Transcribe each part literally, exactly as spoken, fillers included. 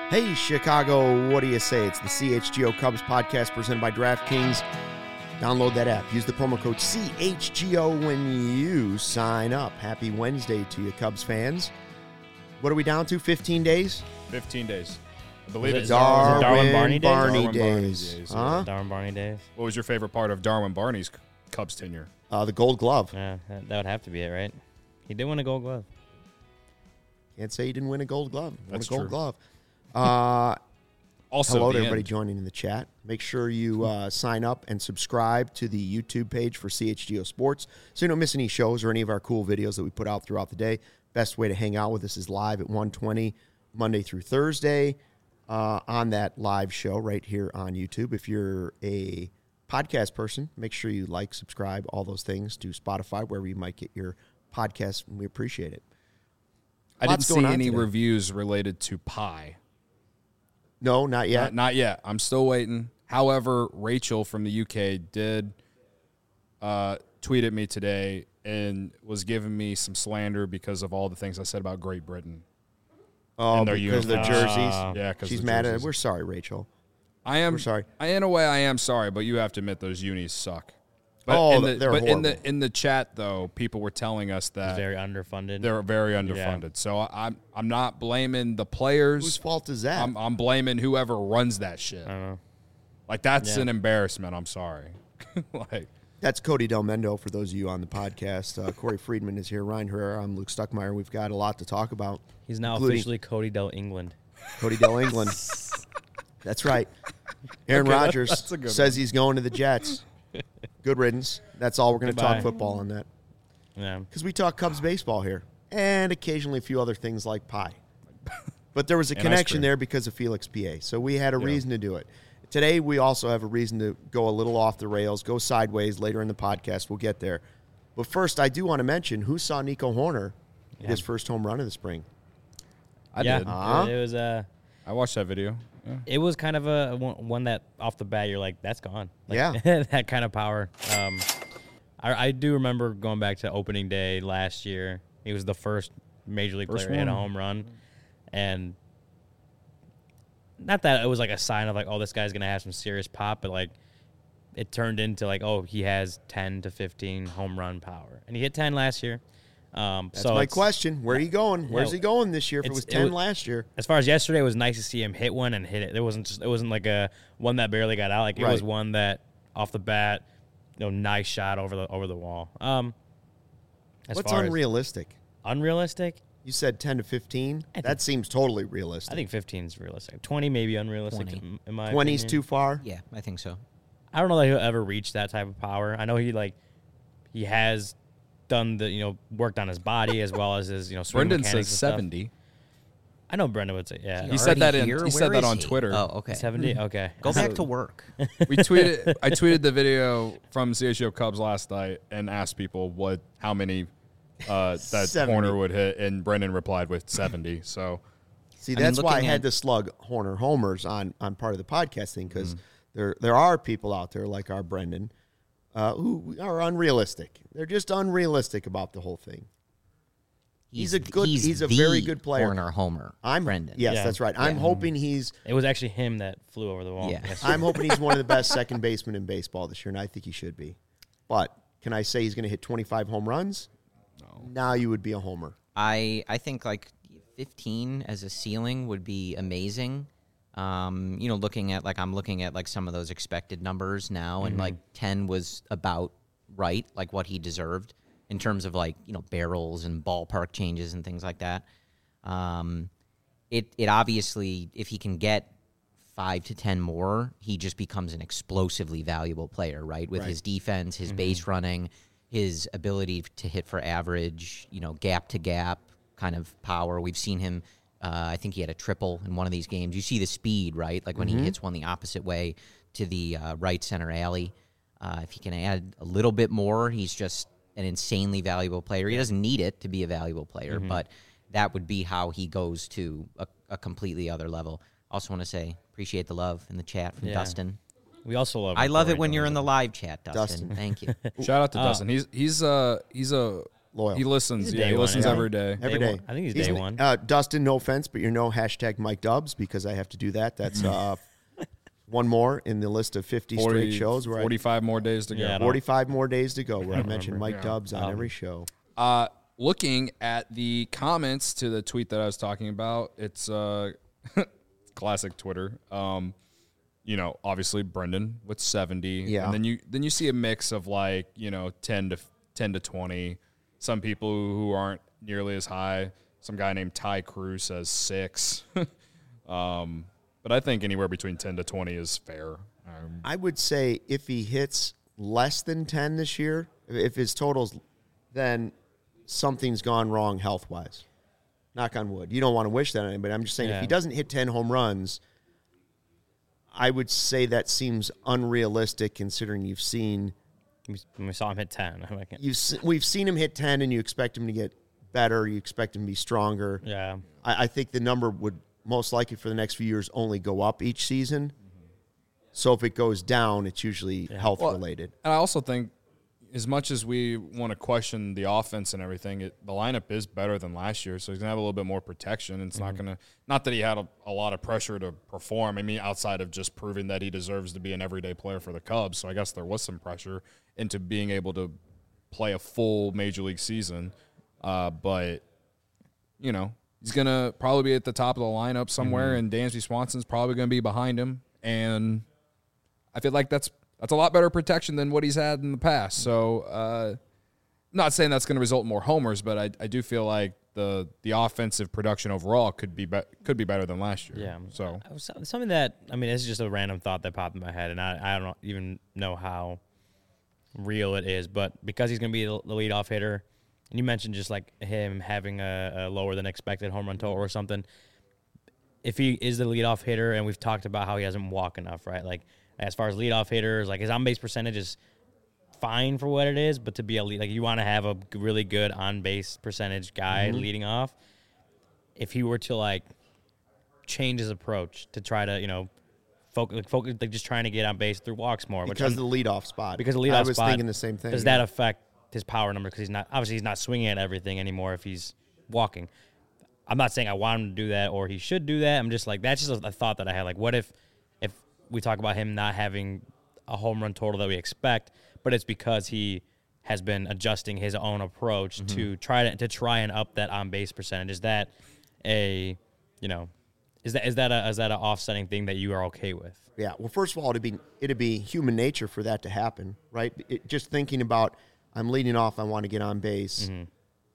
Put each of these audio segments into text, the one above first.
Hey, Chicago, what do you say? It's the C H G O Cubs podcast presented by DraftKings. Download that app. Use the promo code C H G O when you sign up. Happy Wednesday to you, Cubs fans. What are we down to, fifteen days? fifteen days. I believe it's Darwin, Darwin Barney days? Barney Darwin Barney days. days, Huh? Darwin Barney days. What was your favorite part of Darwin Barney's Cubs tenure? Uh, the Gold Glove. Yeah, that, that would have to be it, right? He did win a Gold Glove. Can't say he didn't win a Gold Glove. Won That's a Gold true. Glove. Uh, Also, hello the to everybody end. joining in the chat. Make sure you uh, sign up and subscribe to the YouTube page for C H G O Sports so you don't miss any shows or any of our cool videos that we put out throughout the day. Best way to hang out with us is live at one twenty Monday through Thursday uh, on that live show right here on YouTube. If you're a podcast person, make sure you like, subscribe, all those things to Spotify, wherever you might get your podcast. We appreciate it. I didn't Lots see going on any today. reviews related to pie. No, not yet. Not, not yet. I'm still waiting. However, Rachel from the U K did uh, tweet at me today and was giving me some slander because of all the things I said about Great Britain. Oh, and their because of their uniforms. jerseys. Ah. Yeah, because She's mad at it. We're sorry, Rachel. I am We're sorry. I, in a way, I am sorry, but you have to admit those unis suck. But Oh, in the, they're but in horrible. the in the chat though, people were telling us that Very underfunded. they're very underfunded. So I, I'm I'm not blaming the players. Whose fault is that? I'm I'm blaming whoever runs that shit. I don't know. Like that's Yeah. an embarrassment. I'm sorry. like That's Cody Del Mendo for those of you on the podcast. Uh, Corey Friedman is here. Ryan Herrera. I'm Luke Stuckmeyer. We've got a lot to talk about. He's now including officially Cody Del England. Cody Del England. That's right. Aaron Okay, that- Rodgers that's a good says he's going to the Jets. Good riddance. That's all we're going to talk Goodbye. football on that. Yeah. Because we talk Cubs baseball here. And occasionally a few other things like pie. But there was a And ice connection cream. there because of Felix P A. So we had a reason to do it. Today, we also have a reason to go a little off the rails, go sideways later in the podcast. We'll get there. But first, I do want to mention who saw Nico Horner Yeah. his first home run of the spring. I yeah. did. Uh-huh. It, it was uh, I watched that video. Yeah. it was kind of a one, one that off the bat you're like, that's gone. Like, Yeah. that kind of power. Um, I, I do remember going back to opening day last year. He was the first major league First player to hit a one. home run, and not that it was like a sign of like, oh, this guy's gonna have some serious pop, but like it turned into like, oh, he has ten to fifteen home run power, and he hit ten last year. Um, That's so my it's- question. Where are you going? Where's Yeah, he going this year if it it's- was it ten was- last year? As far as yesterday, it was nice to see him hit one and hit it. It wasn't just it wasn't like a one that barely got out. Like it was Right. one that off the bat, you know, nice shot over the over the wall. Um, as What's far unrealistic? as unrealistic? You said ten to fifteen. I think- That seems totally realistic. I think fifteen is realistic. twenty maybe unrealistic. twenty. In, in my twenty's opinion. too far. Yeah, I think so. I don't know that he'll ever reach that type of power. I know he like he has done the you know worked on his body as well as his you know swing Brendan mechanics says and stuff. seventy. I know Brendan would say yeah. He He said already that in- here? he said Where that is on he? Twitter. Oh, okay. seventy. Okay. Go back to work. We tweeted. I tweeted the video from C H G O Cubs last night and asked people what how many uh, that seventy. Horner would hit, and Brendan replied with seventy. So See, I mean, that's why I looking had at- to slug Horner homers on, on part of the podcasting because Mm-hmm. there there are people out there like our Brendan uh, who are unrealistic. They're just unrealistic about the whole thing. He's a good- he's a the very good player. Horner Homer. I'm Brendan. Yes, Yeah. that's right. I'm Yeah. hoping he's It was actually him that flew over the wall. Yeah. yesterday. I'm hoping he's one of the best second basemen in baseball this year, and I think he should be. But can I say he's going to hit twenty-five home runs? No. Now you would be a homer. I I think like fifteen as a ceiling would be amazing. Um, you know, looking at like I'm looking at like some of those expected numbers now, and like ten was about right, like what he deserved in terms of like you know barrels and ballpark changes and things like that. Um, it it obviously if he can get five to ten more, he just becomes an explosively valuable player, right? With Right. his defense, his base running, his ability to hit for average, you know, gap to gap kind of power. We've seen him. Uh, I think he had a triple in one of these games. You see the speed, right? Like when he hits one the opposite way to the uh, right center alley. Uh, if he can add a little bit more, he's just an insanely valuable player. He doesn't need it to be a valuable player, but that would be how he goes to a, a completely other level. Also want to say appreciate the love in the chat from Yeah. Dustin. We also love. I love it Corey when you're Dillon. in the live chat, Dustin. Dustin. Thank you. shout out to Oh. Dustin. He's he's a he's a loyal. He listens. He's a Yeah, day he one, listens yeah. every day. Every Day day. one. I think he's day one. Uh, Dustin, no offense, but you're no hashtag Mike Dubs because I have to do that. That's uh, one more in the list of fifty forty, straight shows. Where forty-five more days to go. Yeah, I don't- forty-five more days to go where I mentioned Mike Yeah. Dubs on Um, every show. Uh, looking at the comments to the tweet that I was talking about, it's uh, classic Twitter. Um, you know, obviously Brendan with seventy, Yeah. and then you then you see a mix of like you know ten to ten to twenty. Some people who aren't nearly as high. Some guy named Ty Cruz says six. um, but I think anywhere between ten to twenty is fair. Um, I would say if he hits less than ten this year, if his totals, then something's gone wrong health wise. Knock on wood. You don't want to wish that on anybody. I'm just saying if Yeah. he doesn't hit ten home runs, I would say that seems unrealistic considering you've seen We, we saw him hit ten. I'm like, you've se- we've seen him hit ten and you expect him to get better, you expect him to be stronger. yeah. I, I think the number would most likely for the next few years only go up each season. So if it goes down, it's usually health Well, related. And I also think, as much as we want to question the offense and everything, it, the lineup is better than last year, so he's gonna have a little bit more protection. It's not gonna, not that he had a, a lot of pressure to perform. I mean, outside of just proving that he deserves to be an everyday player for the Cubs. So I guess there was some pressure into being able to play a full major league season. Uh, but you know, he's gonna probably be at the top of the lineup somewhere, and Dansby Swanson's probably gonna be behind him, and I feel like that's that's a lot better protection than what he's had in the past. So, uh, not saying that's going to result in more homers, but I, I do feel like the the offensive production overall could be, be could be better than last year. Yeah. So Uh, so- Something that, I mean, this is just a random thought that popped in my head, and I, I don't even know how real it is, but because he's going to be the the leadoff hitter, and you mentioned just like him having a, a lower than expected home run total or something, if he is the leadoff hitter, and we've talked about how he hasn't walked enough, right? Like, as far as leadoff hitters, like his on-base percentage is fine for what it is, but to be a lead, like you want to have a g- really good on-base percentage guy leading off. If he were to like change his approach to try to, you know, focus, like, focus, like just trying to get on base through walks more, which Because I'm- of the leadoff spot. because of the leadoff I was spot, thinking the same thing. Does yeah. that affect his power number? Because he's not obviously he's not swinging at everything anymore if he's walking. I'm not saying I want him to do that or he should do that. I'm just like that's just a, a thought that I had. Like, what if if we talk about him not having a home run total that we expect, but it's because he has been adjusting his own approach Mm-hmm. to try to to try and up that on base percentage? Is that a you know is that is that a is that an offsetting thing that you are okay with? Yeah. Well, first of all, it'd be it'd be human nature for that to happen, right? It, just thinking about I'm leading off, I want to get on base, Mm-hmm.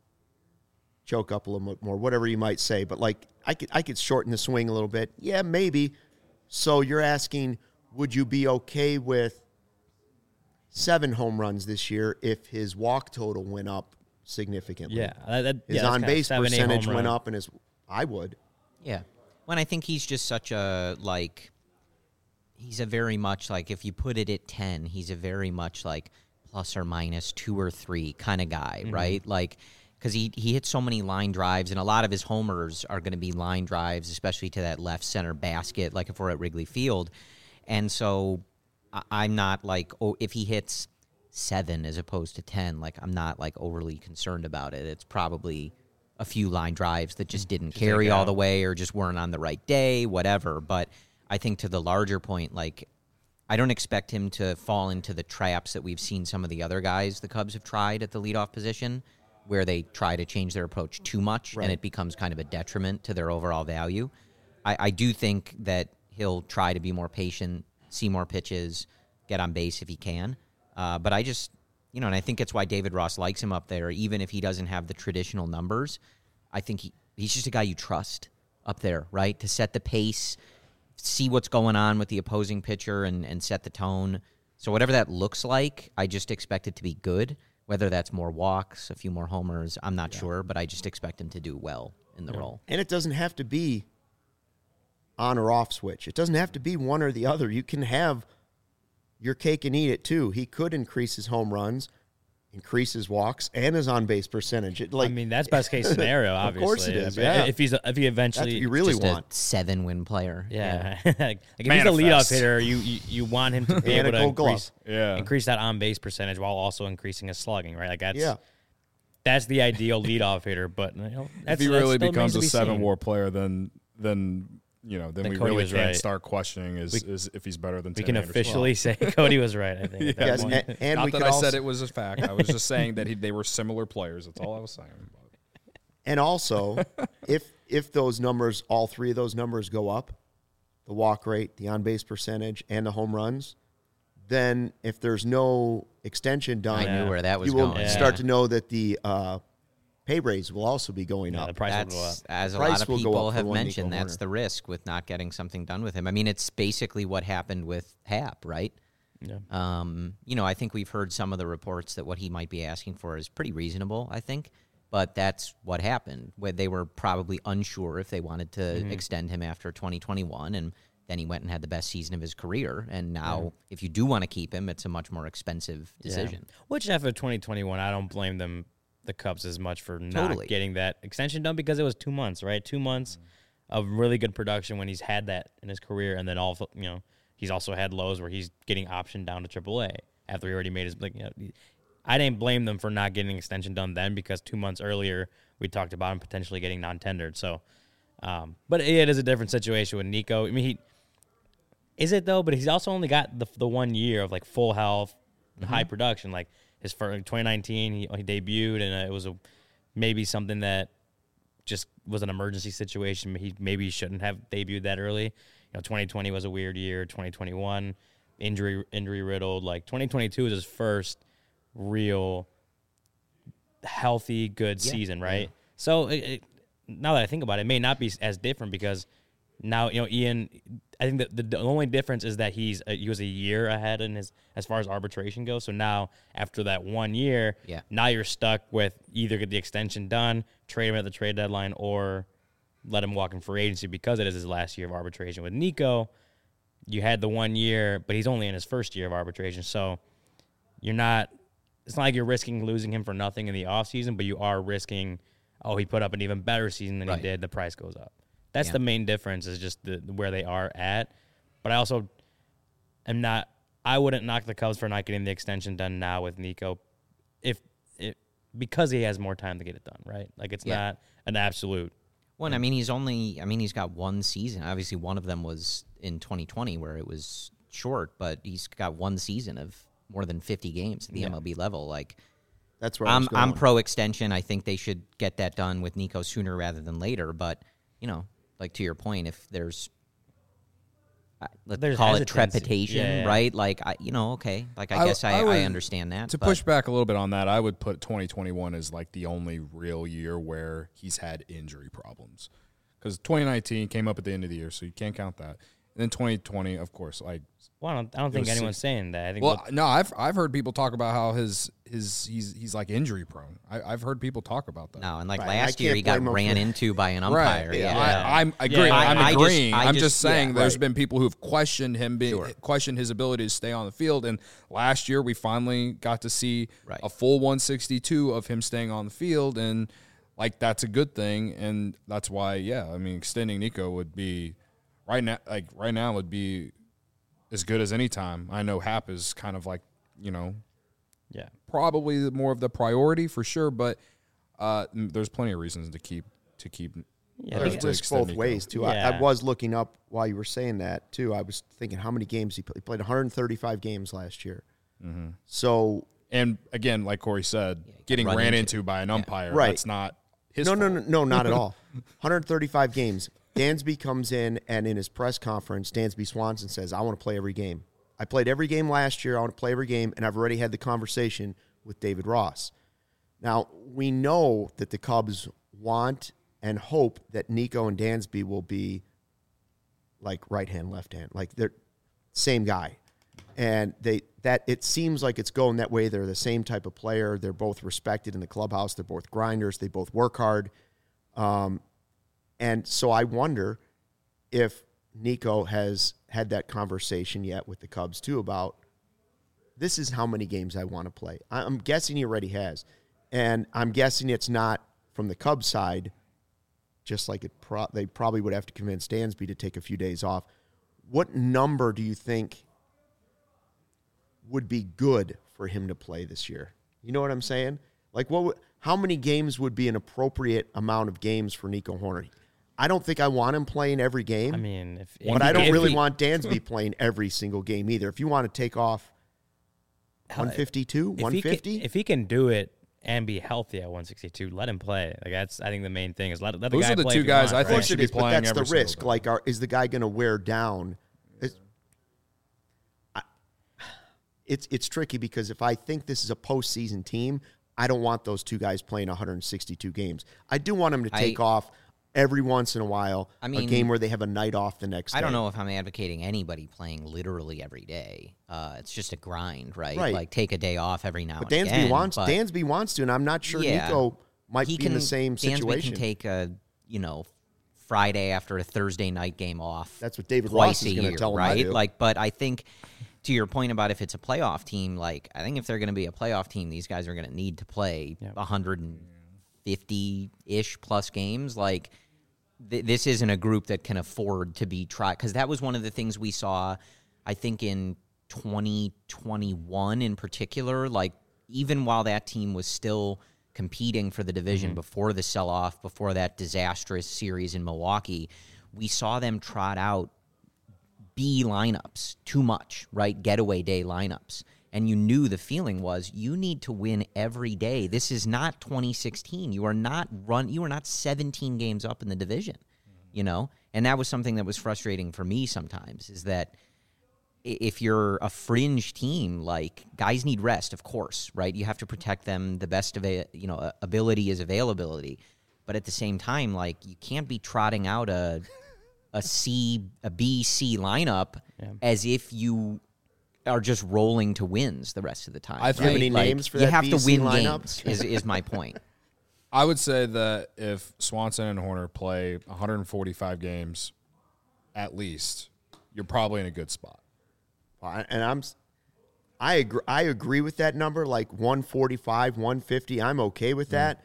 choke up a little bit more, whatever you might say. But like I could I could shorten the swing a little bit. Yeah, maybe. So you're asking, would you be okay with seven home runs this year if his walk total went up significantly? Yeah, that, that, His yeah, that's on kinda base seven, eight percentage home went run. up, and his I would. Yeah. When I think he's just such a, like, he's a very much, like, if you put it at ten, he's a very much, like, plus or minus two or three kind of guy, right? Like, because he, he hits so many line drives, and a lot of his homers are going to be line drives, especially to that left center basket, like if we're at Wrigley Field. And so I, I'm not, like, oh, if he hits seven as opposed to ten, like, I'm not, like, overly concerned about it. It's probably a few line drives that just didn't carry all out. the way or just weren't on the right day, whatever. But I think to the larger point, like, I don't expect him to fall into the traps that we've seen some of the other guys the Cubs have tried at the leadoff position, where they try to change their approach too much Right. and it becomes kind of a detriment to their overall value. I, I do think that he'll try to be more patient, see more pitches, get on base if he can. Uh, but I just, you know, and I think it's why David Ross likes him up there, even if he doesn't have the traditional numbers. I think he, he's just a guy you trust up there, right? To set the pace, see what's going on with the opposing pitcher and, and set the tone. So whatever that looks like, I just expect it to be good. Whether that's more walks, a few more homers, I'm not sure, but I just expect him to do well in the role. And it doesn't have to be on or off switch. It doesn't have to be one or the other. You can have your cake and eat it too. He could increase his home runs, increase his walks, and his on base percentage. It, like, I mean, that's best case scenario. Of Obviously, course it is, But yeah. If he's if he that's eventually, what you really Just want. a seven-win player. yeah, like, like if he's a Manifest. leadoff hitter, you, you you want him to be And able a to gold glove. increase, Yeah. increase that on base percentage while also increasing his slugging, right? Like that's Yeah. that's the ideal leadoff hitter. But you know, If that's, he that really still becomes a remains to be seven seen. WAR player, then then you know then Then we Cody really was can't right. start questioning is, We- is if he's better than We Tim can Anderson. officially say Cody was right. I think. at that Yes, point. and, and Not we that could I also, said it was a fact. I was just saying that he, they were similar players. That's all I was saying. and also, if if those numbers, all three of those numbers go up, the walk rate, the on base percentage, and the home runs, then if there's no extension done, I knew where that was you will going. start Yeah. to know that the uh, pay raise will also be going Yeah, up. the price will go up. That's, as a Price lot of will go people up for have one Nico mentioned, that's Hoerner. the risk with not getting something done with him. I mean, it's basically what happened with Hap, right? Yeah. Um, you know, I think we've heard some of the reports that what he might be asking for is pretty reasonable, I think. But that's what happened, where they were probably unsure if they wanted to Mm-hmm. extend him after twenty twenty-one, and then he went and had the best season of his career. And now, if you do want to keep him, it's a much more expensive decision. Yeah. Which after twenty twenty-one, I don't blame them, the Cubs, as much for not Totally. getting that extension done because it was two months, right? Two months of really good production when he's had that in his career, and then all you know, he's also had lows where he's getting optioned down to triple A after he already made his. Like, you know, I didn't blame them for not getting an extension done then because two months earlier we talked about him potentially getting non-tendered. So, um, but it is a different situation with Nico. I mean, he is it though, but he's also only got the the one year of like full health, and high production. Like his first twenty nineteen, he, he debuted, and it was a maybe something that just was an emergency situation. He maybe shouldn't have debuted that early. You know, twenty twenty was a weird year. twenty twenty-one, injury injury riddled. Like twenty twenty-two is his first real healthy, good Yeah. season, right? So it, it, now that I think about it, it may not be as different because now, you know, Ian, I think that the, the only difference is that he's a, he was a year ahead in his as far as arbitration goes. So now after that one year, Yeah. now you're stuck with either get the extension done, trade him at the trade deadline, or let him walk in free agency because it is his last year of arbitration. With Nico, you had the one year, but he's only in his first year of arbitration. So you're not – it's not like you're risking losing him for nothing in the offseason, but you are risking, oh, he put up an even better season than Right. he did. The price goes up. That's Yeah. the main difference is just the where they are at. But I also am not – I wouldn't knock the Cubs for not getting the extension done now with Nico if it, because he has more time to get it done, right? Like it's Yeah. not an absolute – Well, I mean, he's only, I mean, he's got one season. Obviously, one of them was in twenty twenty where it was short, but he's got one season of more than fifty games at the M L B level. Like, That's where I I'm, was going. I'm pro extension. I think they should get that done with Nico sooner rather than later. But, you know, like to your point, if there's, uh, let's There's call it hesitancy. trepidation, Yeah, yeah. right? Like, I, you know, okay. Like, I, I- guess I, I I, would- understand that. To but- push back a little bit on that, I would put twenty twenty-one as like the only real year where he's had injury problems. Because twenty nineteen came up at the end of the year, so you can't count that. And then twenty twenty, of course, like well, I don't, I don't think was anyone's six- saying that. I think well, what- no, I've I've heard people talk about how his his he's he's like injury prone. I, I've heard people talk about that. No, and like Right, I last year can't he got blame him ran for- into by an Right. umpire. Yeah. Yeah. I, I'm agreeing. Yeah, I'm I- I just- agreeing. I I'm just- just saying yeah. there's Right. been people who've questioned him, being, Sure. questioned his ability to stay on the field. And last year we finally got to see Right. a full one sixty-two of him staying on the field, and like that's a good thing. And that's why, yeah, I mean, extending Nico would be right now. Like right now would be as good as any time. I know Hap is kind of like, you know, yeah. probably more of the priority for sure, but uh, m- there's plenty of reasons to keep to keep. Yeah, uh, There's to risk extend both Nico. ways too. I, I Yeah. was looking up while you were saying that too. I was thinking how many games he played. He played one hundred thirty-five games last year. Mm-hmm. So And again, like Corey said, he got getting run ran into. into by an umpire, Right. that's not his no, fault. no, no, no, not at all. one hundred thirty-five games. Dansby comes in and in his press conference, Dansby Swanson says, "I want to play every game. I played every game last year. I want to play every game, and I've already had the conversation with David Ross." Now we know that the Cubs want and hope that Nico and Dansby will be like right hand, left hand, like they're same guy. And they that it seems like it's going that way. They're the same type of player. They're both respected in the clubhouse. They're both grinders. They both work hard. Um, and so I wonder if Nico has had that conversation yet with the Cubs too about this is how many games I want to play. I- I'm guessing he already has. And I'm guessing it's not from the Cubs side, just like it pro- they probably would have to convince Dansby to take a few days off. What number do you think would be good for him to play this year? You know what I'm saying? Like what would, how many games would be an appropriate amount of games for Nico Hoerner? I don't think I want him playing every game. I mean, if, but if I he- don't if really he- want Dansby playing every single game either. If you want to take off one fifty-two, if he one fifty, can, if he can do it and be healthy at one sixty-two, let him play. Like that's I think the main thing is let, let the Those guy are the play two if you guys want, I of think right? course should it be is, but playing that's every the single risk. day. Like, are, is the guy going to wear down? Is- I- It's it's tricky because if I think this is a postseason team, I don't want those two guys playing one hundred sixty-two games. I do want them to take I- off every once in a while, I a mean, game where they have a night off the next day. I don't know if I'm advocating anybody playing literally every day. Uh, it's just a grind, right? Right. Like take a day off every now But and Dansby again. wants but Dansby wants to, and I'm not sure Yeah. Nico might he be can, in the same Dansby situation. can take a you know Friday after a Thursday night game off. That's what David twice Ross is a gonna year, tell him to right? do. Like, but I think to your point about if it's a playoff team, like I think if they're going to be a playoff team, these guys are going to need to play Yep. one hundred fifty ish plus games. Like th- this isn't a group that can afford to be tried because that was one of the things we saw. I think in twenty twenty-one in particular, like even while that team was still competing for the division before the sell-off, before that disastrous series in Milwaukee, we saw them trot out B lineups too much, right? Getaway day lineups. And you knew the feeling was you need to win every day. This is not twenty sixteen. You are not run you are not seventeen games up in the division, you know? And that was something that was frustrating for me sometimes is that i- if you're a fringe team, like guys need rest, of course, right? You have to protect them. The best of a, you know, ability is availability. But at the same time, like you can't be trotting out a a C, a B, C lineup Yeah. as if you are just rolling to wins the rest of the time. I Do you have think- any Like, names for you that have B to C win lineup? games. Is is my point? I would say that if Swanson and Horner play one hundred forty-five games at least, you're probably in a good spot. Well, and I'm, I agree. I agree with that number, like one forty-five, one fifty. I'm okay with that.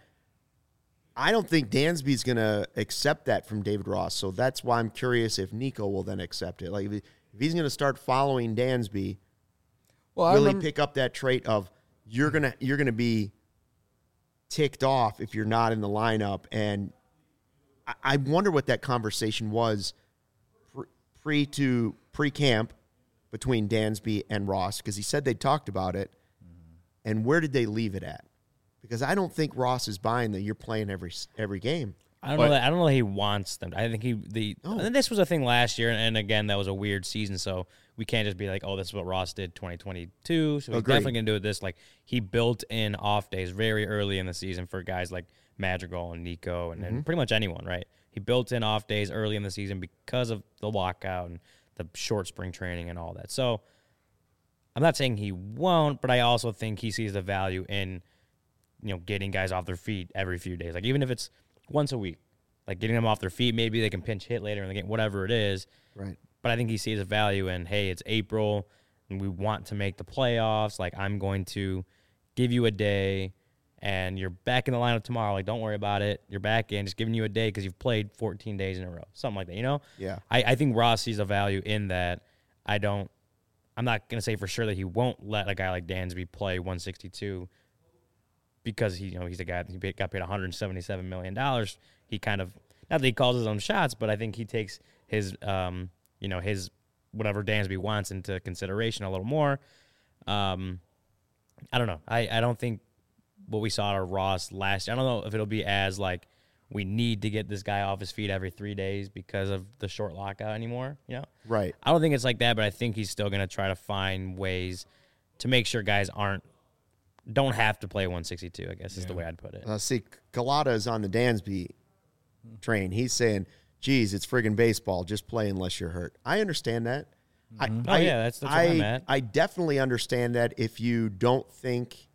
I don't think Dansby's going to accept that from David Ross, so that's why I'm curious if Nico will then accept it. Like if, he, if he's going to start following Dansby, Well, I really remember, pick up that trait of you're gonna you're gonna be ticked off if you're not in the lineup, and I, I wonder what that conversation was pre, pre to pre camp between Dansby and Ross, because he said they talked about it, and where did they leave it at? Because I don't think Ross is buying that you're playing every every game. I don't But- know. That, I don't know. That he wants them. I think he the. No. And this was a thing last year, and again, that was a weird season. So we can't just be like, "Oh, this is what Ross did twenty twenty-two." So he's Agreed. definitely gonna do it. This like he built in off days very early in the season for guys like Madrigal and Nico and, and pretty much anyone. Right? He built in off days early in the season because of the lockout and the short spring training and all that. So I'm not saying he won't, but I also think he sees the value in, you know, getting guys off their feet every few days. Like even if it's once a week, like getting them off their feet, maybe they can pinch hit later in the game, whatever it is. Right. But I think he sees a value in, hey, it's April and we want to make the playoffs. Like I'm going to give you a day and you're back in the lineup tomorrow. Like don't worry about it. You're back in, just giving you a day because you've played fourteen days in a row. Something like that, you know? Yeah. I, I think Ross sees a value in that. I don't, I'm not going to say for sure that he won't let a guy like Dansby play one sixty-two because he, you know, he's a guy that he paid- got paid one hundred seventy-seven million dollars. He kind of, not that he calls his own shots, but I think he takes his, um, you know, his whatever Dansby wants into consideration a little more. Um, I don't know. I, I don't think what we saw out of Ross last year, I don't know if it'll be as like, we need to get this guy off his feet every three days because of the short lockout anymore, you know? Right. I don't think it's like that, but I think he's still going to try to find ways to make sure guys aren't, don't have to play one sixty-two, I guess is the way I'd put it. Uh, see, Galata is on the Dansby train. He's saying, geez, it's friggin' baseball. Just play unless you're hurt. I understand that. I, Oh, I, yeah, that's- that's I, where I'm at. I definitely understand that if you don't think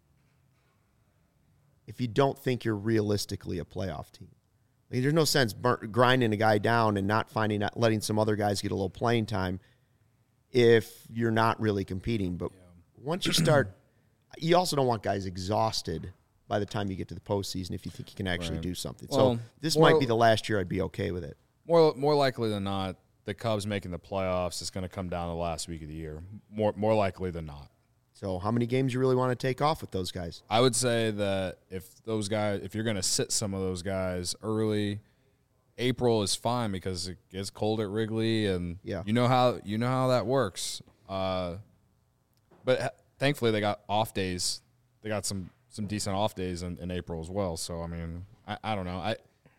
if you don't think you're realistically a playoff team. I mean, there's no sense burnt, grinding a guy down and not finding out, letting some other guys get a little playing time if you're not really competing. But once you start, you also don't want guys exhausted by the time you get to the postseason if you think you can actually Right. do something. Well, so this more- might be the last year I'd be okay with it. More more likely than not, the Cubs making the playoffs is going to come down the last week of the year. More more likely than not. So how many games you really want to take off with those guys? I would say that if those guys, if you're going to sit some of those guys early, April is fine because it gets cold at Wrigley, and Yeah. you know how you know how that works. Uh, but ha- thankfully, they got off days. They got some some decent off days in, in April as well. So I mean, I, I don't know. I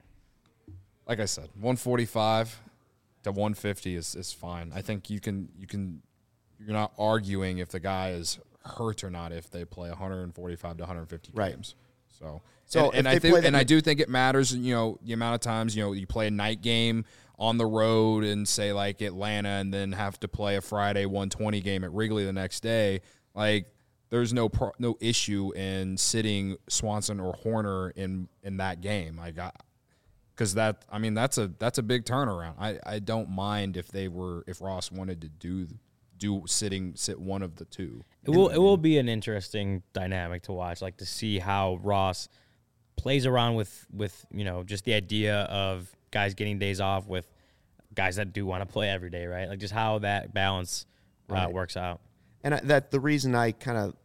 like I said, one forty-five to one fifty is is fine. I think you can you can you're not arguing if the guy is hurt or not if they play one forty-five to one fifty Right. games. So, So and, and if I they think, play the- and I do think it matters. You know, the amount of times you know you play a night game on the road and say like Atlanta, and then have to play a Friday one twenty game at Wrigley the next day. Like, there's no pro, no issue in sitting Swanson or Horner in in that game. I got because that I mean that's a that's a big turnaround. I, I don't mind if they were if Ross wanted to do do sitting sit one of the two. It will it will be an interesting dynamic to watch, like to see how Ross plays around with with you know just the idea of guys getting days off with guys that do want to play every day, right? Like just how that balance uh, Right. works out. And I, that the reason I kind of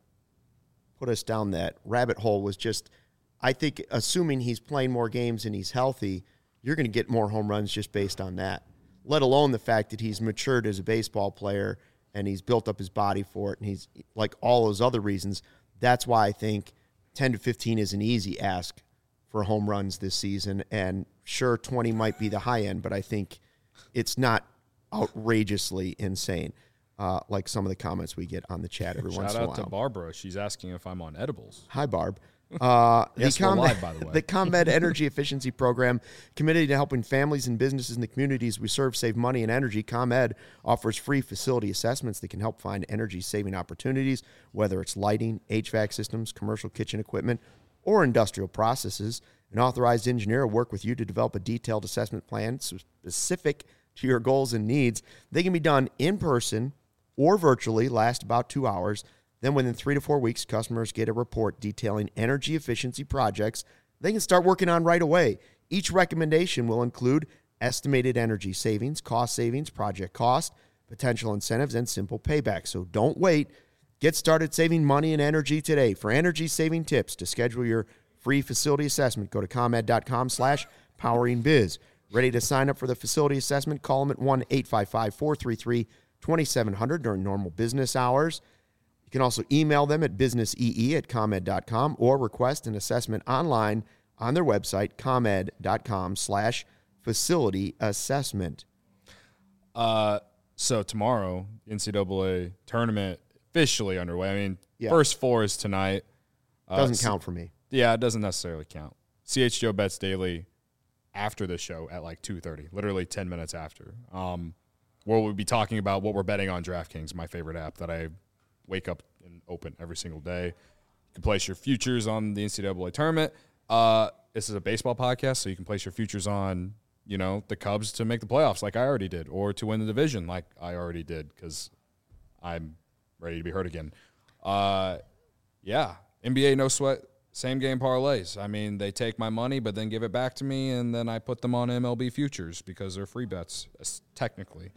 put us down that rabbit hole was just, I think, assuming he's playing more games and he's healthy, you're going to get more home runs just based on that. Let alone the fact that he's matured as a baseball player and he's built up his body for it, and he's like all those other reasons. That's why I think ten to fifteen is an easy ask for home runs this season. And sure, twenty might be the high end, but I think it's not outrageously insane. Uh, like some of the comments we get on the chat every once Shout in a out while. to Barbara. She's asking if I'm on edibles. Hi, Barb. Uh, Yes, the we're ComEd, live, by the way. the ComEd Energy Efficiency Program, committed to helping families and businesses in the communities we serve save money and energy. ComEd offers free facility assessments that can help find energy-saving opportunities, whether it's lighting, H V A C systems, commercial kitchen equipment, or industrial processes. An authorized engineer will work with you to develop a detailed assessment plan specific to your goals and needs. They can be done in person or virtually, last about two hours. Then within three to four weeks, customers get a report detailing energy efficiency projects they can start working on right away. Each recommendation will include estimated energy savings, cost savings, project cost, potential incentives, and simple payback. So don't wait. Get started saving money and energy today. For energy saving tips, to schedule your free facility assessment, go to ComEd.com slash poweringbiz. Ready to sign up for the facility assessment? Call them at one eight five five, four three three, two seven zero zero during normal business hours. You can also email them at businessee at ComEd dot com or request an assessment online on their website, ComEd.com slash facility assessment. Uh, so tomorrow, N C double A tournament officially underway. I mean, Yeah. first four is tonight. Uh, Doesn't so- count for me. Yeah, it doesn't necessarily count. C H G O bets daily after the show at like two thirty, literally ten minutes after. Um, where we'll be talking about what we're betting on DraftKings, my favorite app that I wake up and open every single day. You can place your futures on the N C double A tournament. Uh, this is a baseball podcast, so you can place your futures on, you know, the Cubs to make the playoffs like I already did, or to win the division like I already did because I'm ready to be hurt again. Uh, yeah, N B A no sweat, same game parlays. I mean, they take my money, but then give it back to me, and then I put them on M L B futures because they're free bets, as- technically.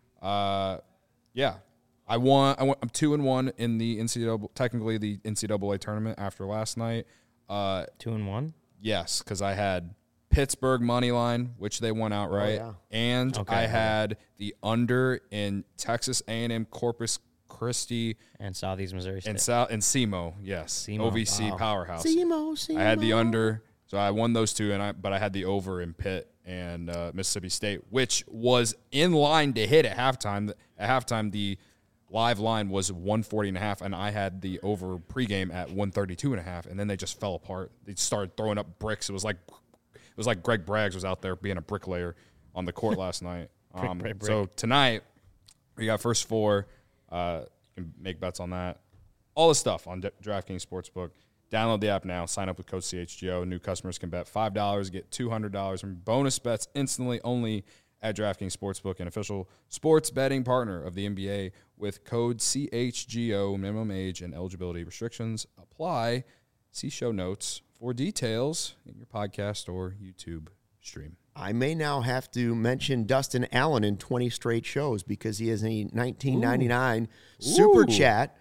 Uh, yeah, I won. I went, I'm two and one in the N C double A, technically the N C double A tournament after last night. Uh, Two and one. yes, because I had Pittsburgh money line, which they won outright, yeah. and Okay. I had the under in Texas A and M Corpus Christi And Southeast Missouri State. and South and S E M O. Yes, S E M O, O V C wow. powerhouse. Simo, Simo. I had the under, so I won those two, and I but I had the over in Pitt and uh, Mississippi State, which was in line to hit at halftime. At halftime, the live line was one forty and a half, and I had the over pregame at one thirty-two and a half, and then they just fell apart. They started throwing up bricks. It was like it was like Greg Braggs was out there being a bricklayer on the court last night. Um, brick, brick. So tonight we got first four. Uh, you can make bets on that. All the stuff on D- DraftKings Sportsbook. Download the app now. Sign up with code C H G O. New customers can bet five dollars, get two hundred dollars in bonus bets instantly only at DraftKings Sportsbook, an official sports betting partner of the N B A with code C H G O. Minimum age and eligibility restrictions apply. See show notes for details in your podcast or YouTube stream. I may now have to mention Dustin Allen in twenty straight shows because he has a nineteen ninety-nine super Ooh. chat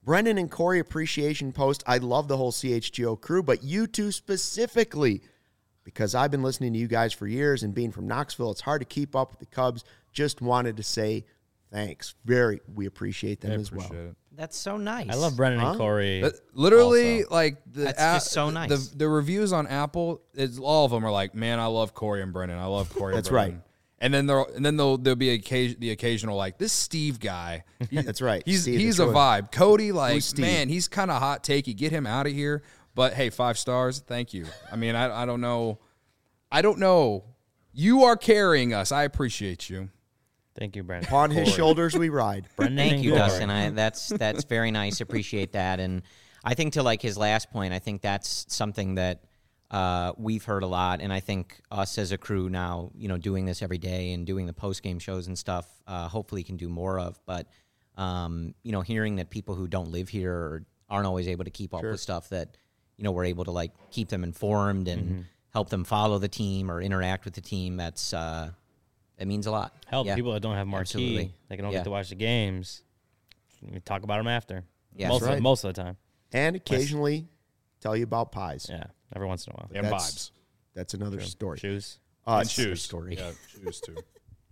Brendan and Corey appreciation post. I love the whole C H G O crew, but you two specifically, because I've been listening to you guys for years and being from Knoxville, it's hard to keep up with the Cubs. Just wanted to say thanks. Very, we appreciate them I as appreciate well. it. That's so nice. I love Brendan Huh? and Corey. But literally, also. like the That's app- just so nice. The, the reviews on Apple, it's, all of them are like, "Man, I love Corey and Brendan. I love Corey." That's and Brendan. right. And then there, and then there'll there'll be occasion, the occasional like this Steve guy. He- That's right. He's Steve, he's the a choice. vibe. Cody, like Who's Steve? man, he's kind of hot takey. Get him out of here. But hey, five stars. Thank you. I mean, I I don't know. I don't know. You are carrying us. I appreciate you. Thank you, Brendan. Upon his Corey. shoulders we ride. Brendan Thank and you, Corey. Dustin. I, that's that's very nice. Appreciate that. And I think to like his last point, I think that's something that uh, we've heard a lot. And I think us as a crew now, you know, doing this every day and doing the post game shows and stuff, uh, hopefully can do more of. But um, you know, hearing that people who don't live here or aren't always able to keep up with stuff, that you know we're able to like keep them informed and Mm-hmm. help them follow the team or interact with the team. That's uh, it means a lot. Hell, Yeah. people that don't have marquee, Absolutely. they can don't Yeah. get to watch the games. We talk about them after. Yeah. most, That's of, right. most of the time. And occasionally tell you about pies. Yeah, every once in a while. And That's- vibes. That's another story. Shoes. Uh, And shoes. story. Yeah, shoes too.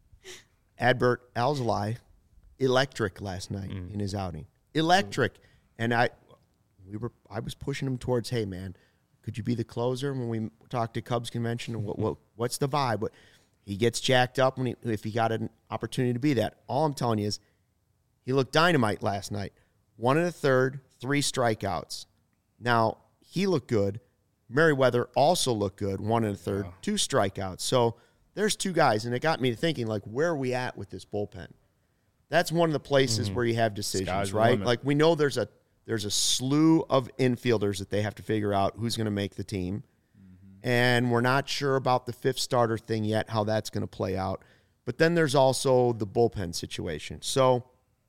Adbert Alzolai, electric last night Mm. in his outing. Electric. And I we were I was pushing him towards, hey man, could you be the closer when we talked to Cubs convention? And what, what what's the vibe? What, he gets jacked up when he, if he got an opportunity to be that. All I'm telling you is he looked dynamite last night. One and a third, three strikeouts. Now, he looked good. Merriweather also looked good, one and a third, Wow. two strikeouts. So there's two guys, and it got me to thinking, like, where are we at with this bullpen? That's one of the places where you have decisions, Sky's the right? limit. Like we know there's a there's a slew of infielders that they have to figure out who's going to make the team, and we're not sure about the fifth starter thing yet, how that's going to play out. But then there's also the bullpen situation. So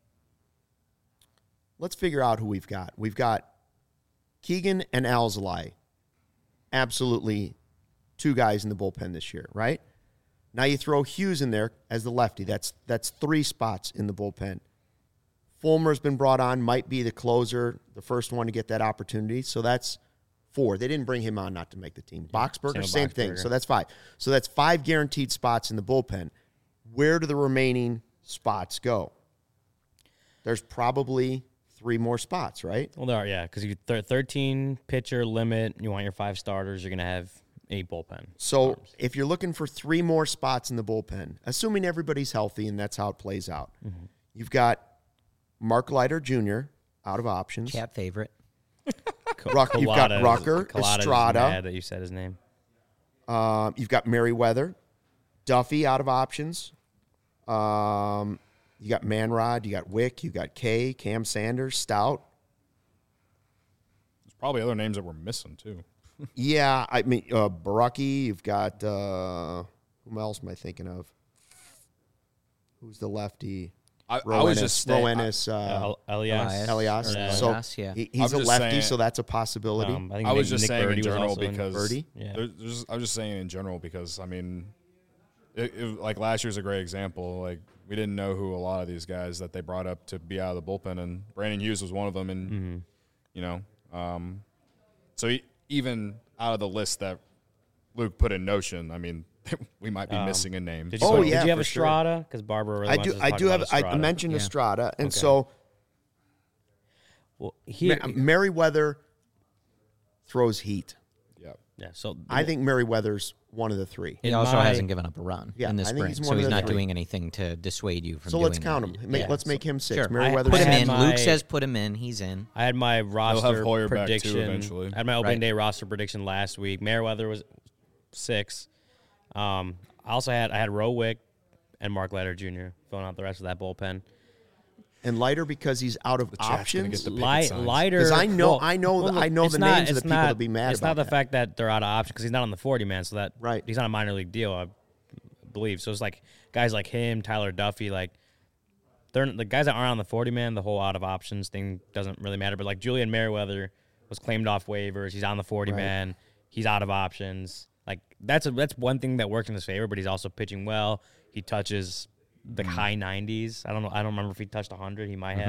let's figure out who we've got. We've got Keegan and Alzolai, absolutely two guys in the bullpen this year, right? Now you throw Hughes in there as the lefty. That's that's three spots in the bullpen. Fulmer's been brought on, might be the closer, the first one to get that opportunity. So that's four. They didn't bring him on not to make the team. Boxberger, same same, with thing. Boxberger. So that's five. So that's five guaranteed spots in the bullpen. Where do the remaining spots go? There's probably three more spots, right? Well, there are, yeah, because you th- thirteen pitcher limit. You want your five starters. You're gonna have eight bullpen. So arms. if you're looking for three more spots in the bullpen, assuming everybody's healthy and that's how it plays out, Mm-hmm. you've got Mark Leiter Junior out of options. Chat favorite. Ruck, you've got Collada- Rucker, Collada is Estrada. mad that you said his name. Um, you've got Merriweather, Duffy out of options. Um, you got Manrod, you got Wick, you got Kay, Cam Sanders, Stout. There's probably other names that we're missing too. Yeah, I mean uh, Baraki. You've got uh, who else am I thinking of? Who's the lefty? I, I was Roenis- just saying, Roenis, uh, Uh, Elias. Elias. Elias. Yeah. So Elias, yeah. he, I'm he's a just lefty, saying- so that's a possibility. Um, I, think I was Nick- just Nick saying Birdie in was general also in- because Birdie? Yeah. there's, there's, I was just saying in general because I mean, it, it, like last year's a great example. Like we didn't know who a lot of these guys that they brought up to be out of the bullpen, and Brandon Hughes was one of them. And Mm-hmm. you know, um, so he, even out of the list that Luke put in Notion, I mean, we might be Um, missing a name. Did you, Oh, put- yeah, did you have for sure. Estrada? Because Barbara really I wants do. us to I talk do have. about I Estrada. mentioned Yeah. Estrada, and Okay. so Well, he, Ma- Merriweather throws heat. yeah. yeah. So I think Merriweather's one of the three. He In also my- hasn't given up a run Yeah, in the I think spring, he's so one of he's the not three. doing anything to dissuade you from So doing let's count that. him. Make, Yeah. let's make him six. Sure. Merriweather's Put him had in. my- Luke says put him in. He's in. I had my roster Hoyer back, too, prediction. eventually. I had my opening Right. day roster prediction last week. Merriweather was six. Um, I also had I had Rowick and Mark Leiter Junior filling out the rest of that bullpen. and Leiter because he's out of chat's gonna options. get the picket Light, signs. Lighter, 'Cause I know- well, I know the- well, I know it's the not- names of the it's people not- that'd be mad It's about not the that. fact that they're out of option because he's not on the forty man, so that Right. he's not a minor league deal, I believe. So it's like guys like him, Tyler Duffy, like they're the guys that aren't on the forty man. The whole out of options thing doesn't really matter. But like Julian Merriweather was claimed off waivers. He's on the forty man. He's out of options. Like that's a, that's one thing that worked in his favor. But he's also pitching well. He touches the high nineties. I don't know. I don't remember if he touched one hundred. He might have.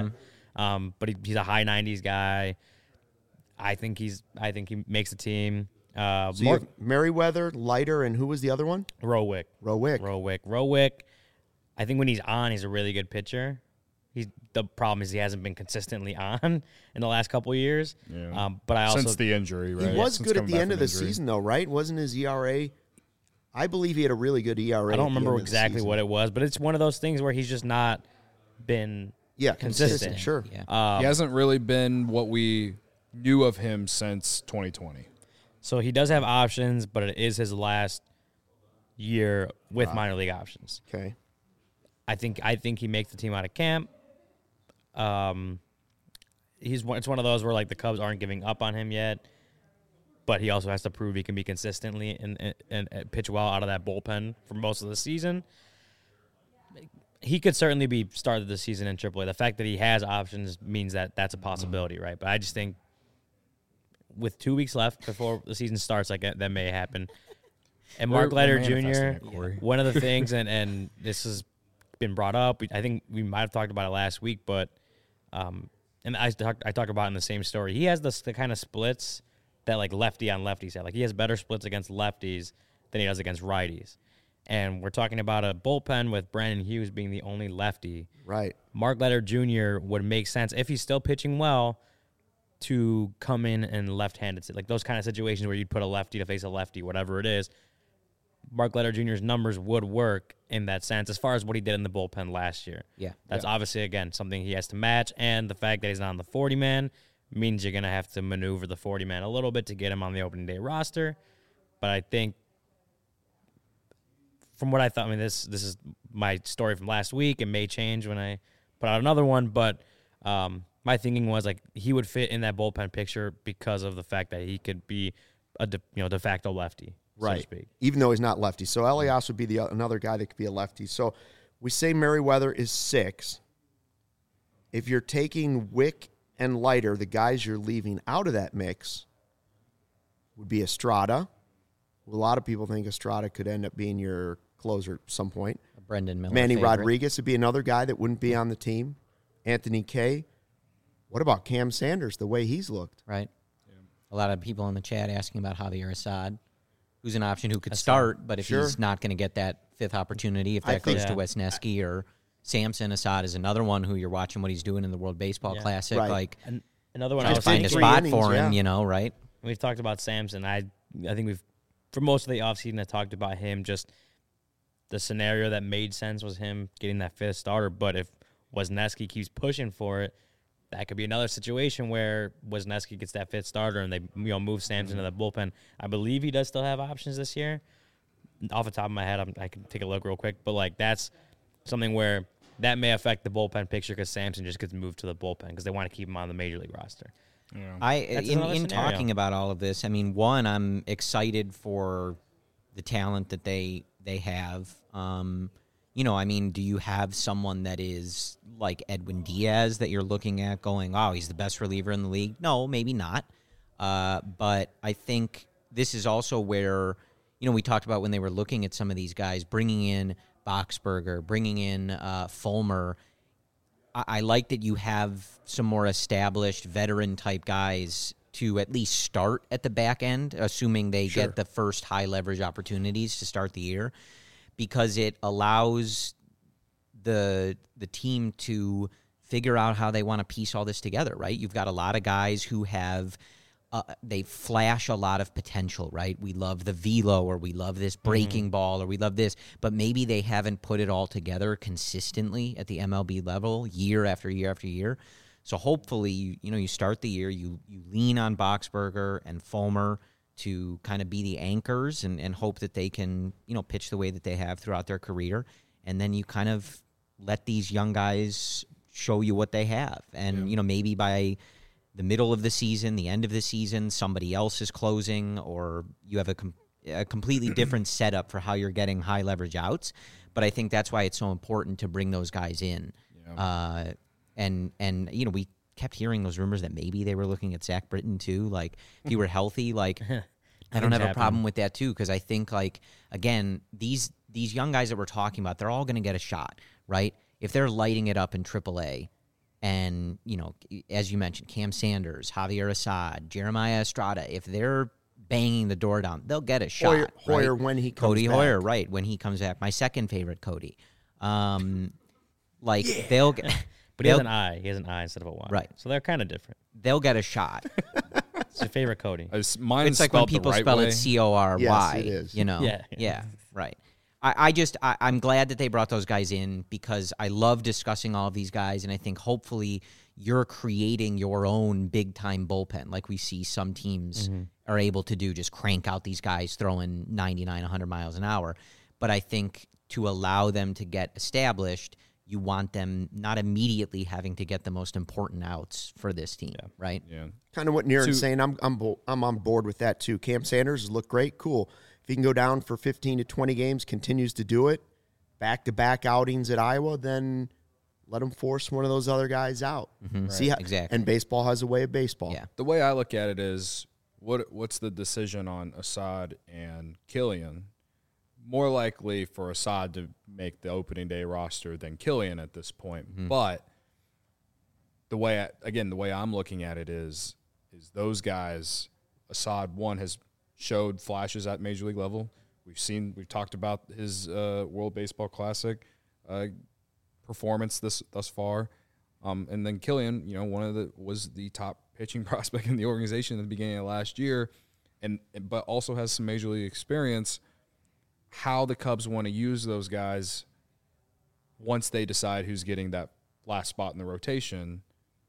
Um, but he, he's a high nineties guy. I think he's. I think he makes the team. Uh, So you have Merriweather, Leiter, and who was the other one? Rowick. Rowick. Rowick. Rowick. I think when he's on, he's a really good pitcher. He's the problem is he hasn't been consistently on in the last couple of years. Yeah. Um, but I also Since the injury, right? He was Since good at coming the back end from of the injury. season, though, right? Wasn't his E R A? I believe he had a really good E R A. I don't remember exactly what it was, but it's one of those things where he's just not been Yeah, consistent. consistent. Sure. Yeah. Um, He hasn't really been what we knew of him since twenty twenty. So he does have options, but it is his last year with minor league options. Okay. I think I think he makes the team out of camp. Um, he's one, it's one of those where like the Cubs aren't giving up on him yet, but he also has to prove he can be consistently and, and, and pitch well out of that bullpen for most of the season. He could certainly be started the season in triple A. The fact that he has options means that that's a possibility, right? But I just think with two weeks left before the season starts, like that, that may happen. And Mark We're- Leiter we're manifesting Junior, it, Corey. one of the things, and, and this has been brought up, we- I think we might have talked about it last week, but um, and I talked I talked about it in the same story. He has this, the kind of splits that like lefty on lefties have. Like he has better splits against lefties than he does against righties. And we're talking about a bullpen with Brandon Hughes being the only lefty. Right. Mark Leiter Junior would make sense if he's still pitching well to come in and left-handed, like those kind of situations where you'd put a lefty to face a lefty, whatever it is. Mark Leiter Junior's numbers would work in that sense as far as what he did in the bullpen last year. Yeah. That's Yeah. obviously, again, something he has to match, and the fact that he's not on the forty-man means you're going to have to maneuver the forty-man a little bit to get him on the opening day roster. But I think from what I thought, I mean, this this is my story from last week. It may change when I put out another one, but um, my thinking was like he would fit in that bullpen picture because of the fact that he could be a de, you know de facto lefty, so to Right. speak. Even though he's not lefty. So Elias would be the another guy that could be a lefty. So we say Merriweather is six. If you're taking Wick and Leiter, the guys you're leaving out of that mix would be Estrada. A lot of people think Estrada could end up being your closer at some point. Brendan Miller. Manny favorite. Rodriguez would be another guy that wouldn't be on the team. Anthony Kay. What about Cam Sanders, the way he's looked? Right. A lot of people in the chat asking about Javier Assad, who's an option who could Assad. start, but if Sure. he's not going to get that fifth opportunity, if I that think- goes to Yeah. Wesneski or Samson, Assad is another one who you're watching what he's doing in the World Baseball Yeah. Classic. Right. Like, And another one I trying to was find a thinking, three spot innings, for him, yeah. you know, right? we've talked about Samson. I I think we've for most of the offseason I talked about him. Just the scenario that made sense was him getting that fifth starter. But if Wesneski keeps pushing for it, that could be another situation where Wesneski gets that fifth starter and they you know move Samson to the bullpen. I believe he does still have options this year. Off the top of my head, I'm, I can take a look real quick. But like that's something where that may affect the bullpen picture because Samson just gets moved to the bullpen because they want to keep him on the major league roster. Yeah. I That's in, another in scenario. talking about all of this, I mean, one, I'm excited for the talent that they they have. Um, you know, I mean, do you have someone that is like Edwin Diaz that you're looking at going, oh, he's the best reliever in the league? No, maybe not. Uh, but I think this is also where, you know, we talked about when they were looking at some of these guys, bringing in Boxberger, bringing in uh, Fulmer. I, I like that you have some more established veteran type guys to at least start at the back end, assuming they Sure. get the first high leverage opportunities to start the year, because it allows the the team to figure out how they want to piece all this together, right? You've got a lot of guys who have uh, they flash a lot of potential, right? We love the velo, or we love this breaking ball, or we love this, but maybe they haven't put it all together consistently at the M L B level year after year after year. So hopefully, you, you know, you start the year, you you lean on Boxberger and Fulmer to kind of be the anchors and, and hope that they can, you know, pitch the way that they have throughout their career. And then you kind of let these young guys show you what they have. And, Yeah. you know, maybe by the middle of the season, the end of the season, somebody else is closing, or you have a, com- a completely different setup for how you're getting high leverage outs. But I think that's why it's so important to bring those guys in. Yeah. Uh, and, and you know, we kept hearing those rumors that maybe they were looking at Zach Britton too. Like, if he were healthy, like, I don't Things have a happen. problem with that too, because I think, like, again, these these young guys that we're talking about, they're all going to get a shot, right? If they're lighting it up in triple A, and, you know, as you mentioned, Cam Sanders, Javier Assad, Jeremiah Estrada, if they're banging the door down, they'll get a shot. Hoyer, Hoyer right? when he comes Cody back. Hoyer, right, when he comes back. My second favorite, Cody. Um, like, yeah. they'll get... But he has an I. He has an I instead of a Y. Right. So they're kind of different. They'll get a shot. It's your favorite Cody. It's, mine's It's like when spelled people the right spell way. it C O R Y. Yes, it is. You know? Yeah. Yeah, right. I, I just, I, I'm glad that they brought those guys in because I love discussing all of these guys, and I think hopefully you're creating your own big-time bullpen like we see some teams Mm-hmm. are able to do, just crank out these guys throwing ninety-nine, one hundred miles an hour. But I think to allow them to get established, you want them not immediately having to get the most important outs for this team, Yeah. right? Yeah. Kind of what Niren's To- saying. I'm I'm bo- I'm on board with that too. Cam Sanders has looked great. Cool. If he can go down for fifteen to twenty games, continues to do it, back to back outings at Iowa, then let him force one of those other guys out. See how, exactly. And baseball has a way of baseball. Yeah. The way I look at it is, what what's the decision on Assad and Killian? More likely for Assad to make the opening day roster than Killian at this point. Mm-hmm. But the way I, again, the way I'm looking at it is is those guys. Assad one has showed flashes at major league level. We've seen we've talked about his uh, World Baseball Classic uh, performance this thus far. Um, and then Killian, you know, one of the was the top pitching prospect in the organization at the beginning of last year, and but also has some major league experience. How the Cubs want to use those guys once they decide who's getting that last spot in the rotation,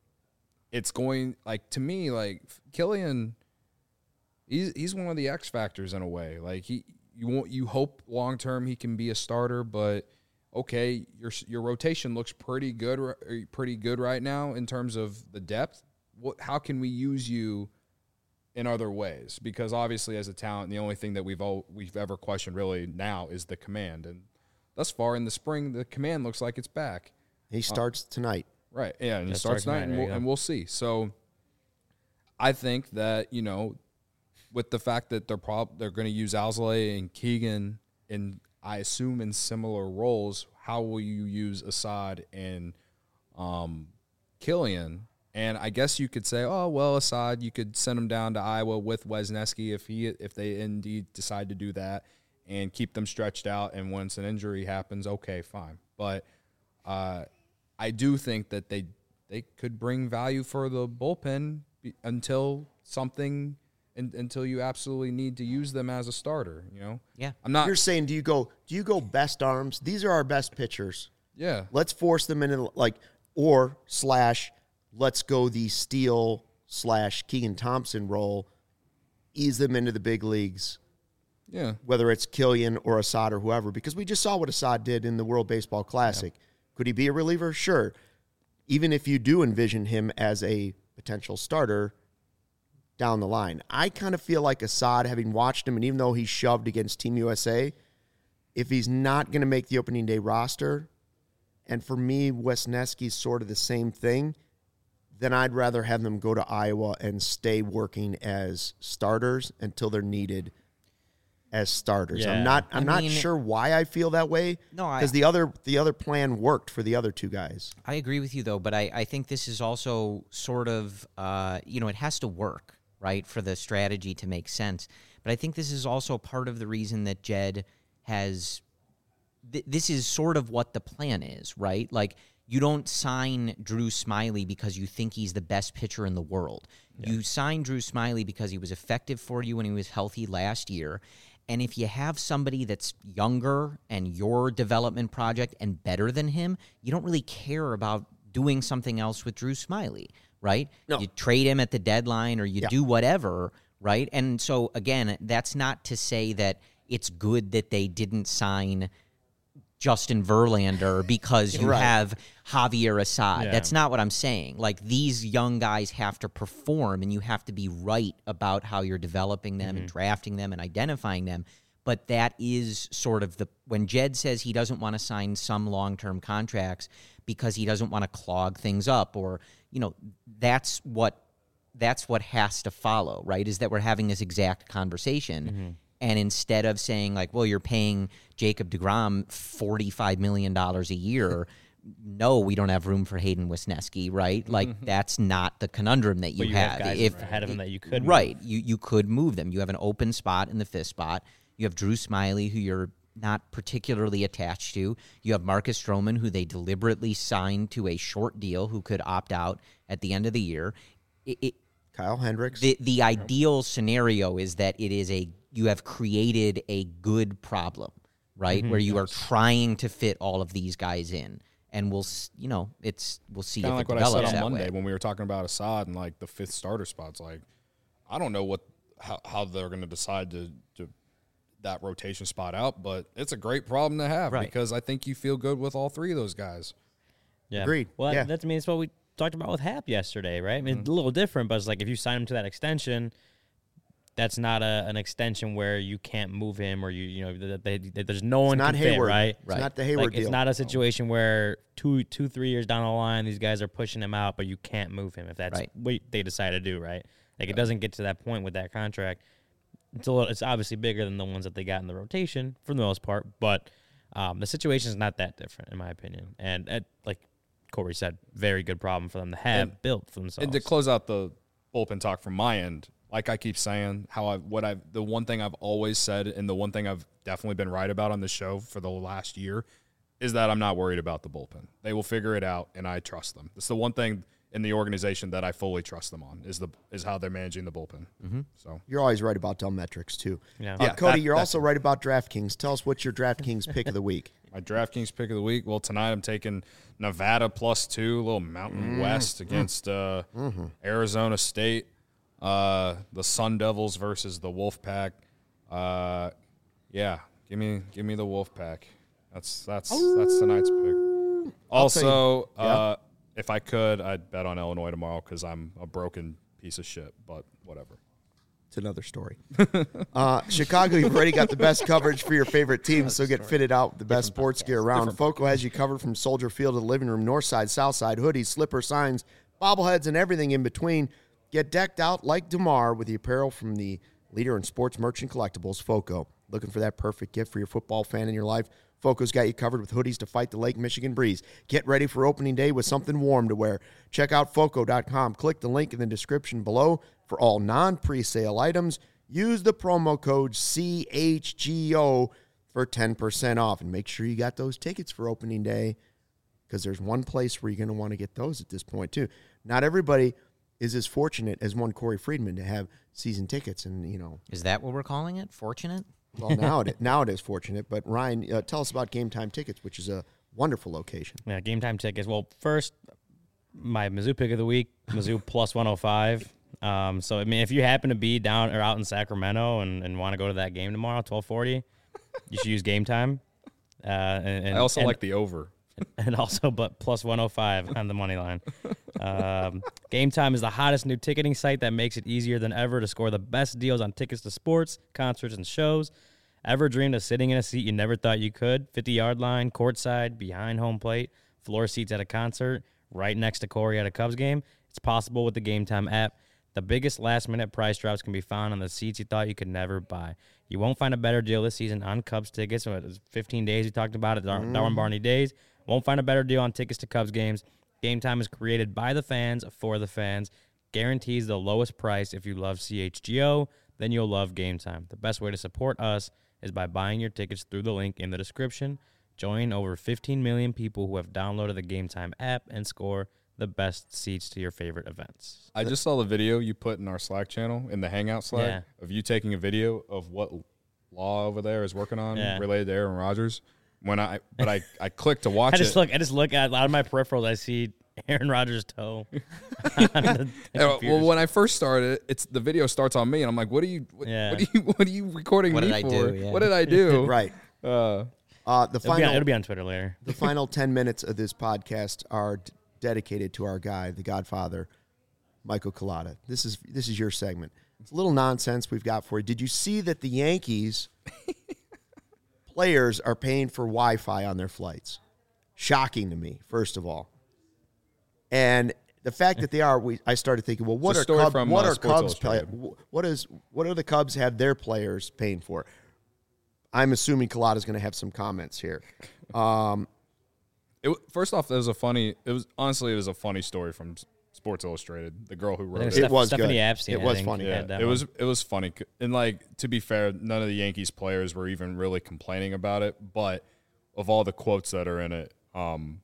it's going, like, to me, like, Killian, he's he's one of the X factors in a way. Like, he you won't you hope long term he can be a starter, but okay, your your rotation looks pretty good pretty good right now in terms of the depth. What how can we use you in other ways? Because obviously, as a talent, the only thing that we've all, we've ever questioned really now is the command. And thus far in the spring, the command looks like it's back. He starts tonight. Right. Yeah, and he That starts starts tonight, tonight, and there you we'll, go. and we'll see. So I think that, you know, with the fact that they're prob- they're going to use Alzolay and Keegan in, I assume, in similar roles, how will you use Assad and um, Killian? And I guess you could say, oh, well, Assad, you could send him down to Iowa with Wesneski if he if they indeed decide to do that and keep them stretched out. And once an injury happens, okay, fine. But uh, I do think that they they could bring value for the bullpen be- until something in, until you absolutely need to use them as a starter. You know, Yeah. I'm not. You're saying, do you go? Do you go best arms? These are our best pitchers. Yeah, Let's force them into like or slash. Let's go the Steele slash Keegan Thompson role. Ease them into the big leagues. yeah. Whether it's Killian or Assad or whoever, because we just saw what Assad did in the World Baseball Classic. Yeah. Could he be a reliever? Sure. Even if you do envision him as a potential starter down the line. I kind of feel like Assad, having watched him, and even though he shoved against Team U S A, if he's not going to make the opening day roster, and for me, Wesneski's sort of the same thing, then I'd rather have them go to Iowa and stay working as starters until they're needed as starters. Yeah. I'm not I'm I not mean- sure why I feel that way. No, I- because the other the other plan worked for the other two guys. I agree with you, though, but I, I think this is also sort of, uh, you know, it has to work, right, for the strategy to make sense. But I think this is also part of the reason that Jed has th- – this is sort of what the plan is, right? Like, you don't sign Drew Smyly because you think he's the best pitcher in the world. Yeah. You sign Drew Smyly because he was effective for you when he was healthy last year. And if you have somebody that's younger and your development project and better than him, you don't really care about doing something else with Drew Smyly, right? No. You trade him at the deadline or you Yeah. do whatever, right? And so, again, that's not to say that it's good that they didn't sign Justin Verlander because you Right. have Javier Assad. Yeah. That's not what I'm saying. Like, these young guys have to perform, and you have to be right about how you're developing them and drafting them and identifying them. But that is sort of the – when Jed says he doesn't want to sign some long-term contracts because he doesn't want to clog things up or, you know, that's what that's what has to follow, right, is that we're having this exact conversation. Mm-hmm. And instead of saying, like, well, you're paying Jacob deGrom forty-five million dollars a year, no, we don't have room for Hayden Wisniewski, right? Like that's not the conundrum that you, But you have. have guys if ahead of him that you could move. right, you you could move them. You have an open spot in the fifth spot. You have Drew Smiley, who you're not particularly attached to. You have Marcus Stroman, who they deliberately signed to a short deal, who could opt out at the end of the year. It, it, Kyle Hendricks. the the ideal scenario is that it is a you have created a good problem, right? Mm-hmm. Where you are trying to fit all of these guys in, and we'll s- you know it's we'll see Kind if of like it what I develops said on that Monday way. when we were talking about Assad and like the fifth starter spots. Like, I don't know what how, how they're going to decide to to that rotation spot out, but it's a great problem to have Right. because I think you feel good with all three of those guys. Yeah. Agreed. Well, Yeah. that's I mean, it's what we talked about with Hap yesterday, right? I mean, it's a little different, but it's like if you sign him to that extension, that's not a, an extension where you can't move him or you you know that they, they, there's no one not can fit, Hayward. right? It's not the Hayward Like, deal. it's not a situation where two two three years down the line these guys are pushing him out, but you can't move him if that's Right. what they decide to do, right? Like it doesn't get to that point with that contract. It's a little, it's obviously bigger than the ones that they got in the rotation for the most part, but um, the situation is not that different in my opinion. And uh, like Corey said, very good problem for them to have And- built for themselves. And to close out the bullpen talk from my end, like I keep saying, how I what I the one thing I've always said, and the one thing I've definitely been right about on the show for the last year, is that I'm not worried about the bullpen. They will figure it out, and I trust them. It's the one thing in the organization that I fully trust them on is the is how they're managing the bullpen. Mm-hmm. So You're always right about dumb metrics too. Yeah. Uh, Yeah, Cody, that- you're that's also right about DraftKings. Tell us what's your DraftKings pick of the week. my DraftKings pick of the week. Well, tonight I'm taking Nevada plus two, a little Mountain West against uh, Arizona State. Uh, the Sun Devils versus the Wolfpack. Uh, yeah, give me give me the Wolfpack. That's that's that's tonight's pick. Also, Yeah. uh, if I could, I'd bet on Illinois tomorrow because I'm a broken piece of shit. But whatever. It's another story. uh, Chicago, you've already got the best coverage for your favorite teams, so get fitted out with the best sports gear around. Foco has you covered from Soldier Field to the living room, north side, south side, hoodies, slippers, signs, bobbleheads, and everything in between. Get decked out like DeMar with the apparel from the leader in sports merchant collectibles, Foco. Looking for that perfect gift for your football fan in your life? Foco's got you covered with hoodies to fight the Lake Michigan breeze. Get ready for opening day with something warm to wear. Check out Foco dot com. Click the link in the description below for all non-presale items. Use the promo code C H G O for ten percent off. And make sure you got those tickets for opening day because there's one place where you're going to want to get those at this point too. Not everybody is as fortunate as one Corey Friedman to have season tickets. And, you know, Is that what we're calling it? Fortunate? well, now it, now it is fortunate. But, Ryan, uh, tell us about Game Time Tickets, which is a wonderful location. Yeah, game time tickets. Well, first, my Mizzou pick of the week, Mizzou plus one oh five. Um, so, I mean, if you happen to be down or out in Sacramento and, and want to go to that game tomorrow, twelve forty, you should use Game Time. Uh, and, and, I also and, like the over. and also, but plus one oh five on the money line. Um, Game Time is the hottest new ticketing site that makes it easier than ever to score the best deals on tickets to sports, concerts, and shows. Ever dreamed of sitting in a seat you never thought you could? fifty-yard line, courtside, behind home plate, floor seats at a concert, right next to Corey at a Cubs game? It's possible with the Game Time app. The biggest last-minute price drops can be found on the seats you thought you could never buy. You won't find a better deal this season on Cubs tickets. So it was fifteen days we talked about it, Dar- Mm. Darwin Barney days. Won't find a better deal on tickets to Cubs games. Game Time is created by the fans for the fans. Guarantees the lowest price. If you love C H G O, then you'll love Game Time. The best way to support us is by buying your tickets through the link in the description. Join over fifteen million people who have downloaded the Game Time app and score the best seats to your favorite events. I just saw the video you put in our Slack channel, in the Hangout Slack, Yeah. of you taking a video of what law over there is working on Yeah. related to Aaron Rodgers. When I, but I, I clicked to watch I just it. look. I just look at out of my peripherals. I see Aaron Rodgers' toe. on the Yeah, well, computers. when I first started, it's the video starts on me, and I'm like, "What are you? What, Yeah. what are you? What are you recording What me did I for? do? Yeah. What did I do?" Right. Uh, Uh, the it'll, be final on, it'll be on Twitter later. the final ten minutes of this podcast are d- dedicated to our guy, the Godfather, Michael Collada. This is this is your segment. It's a little nonsense we've got for you. Did you see that the Yankees players are paying for Wi-Fi on their flights? Shocking to me, first of all. And the fact that they are, we I started thinking, well, what It's a are story Cubs, from, what uh, are Sports Cubs play, Illustrated. what is what do the Cubs have their players paying for? I'm assuming Collada's going to have some comments here. Um, It, first off, it was a funny. It was honestly, it was a funny story from Sports Illustrated. The girl who wrote it. It was Stephanie good. Epstein. It I was think, funny. Yeah, had that it one. was it was funny, and like to be fair, none of the Yankees players were even really complaining about it. But of all the quotes that are in it, um,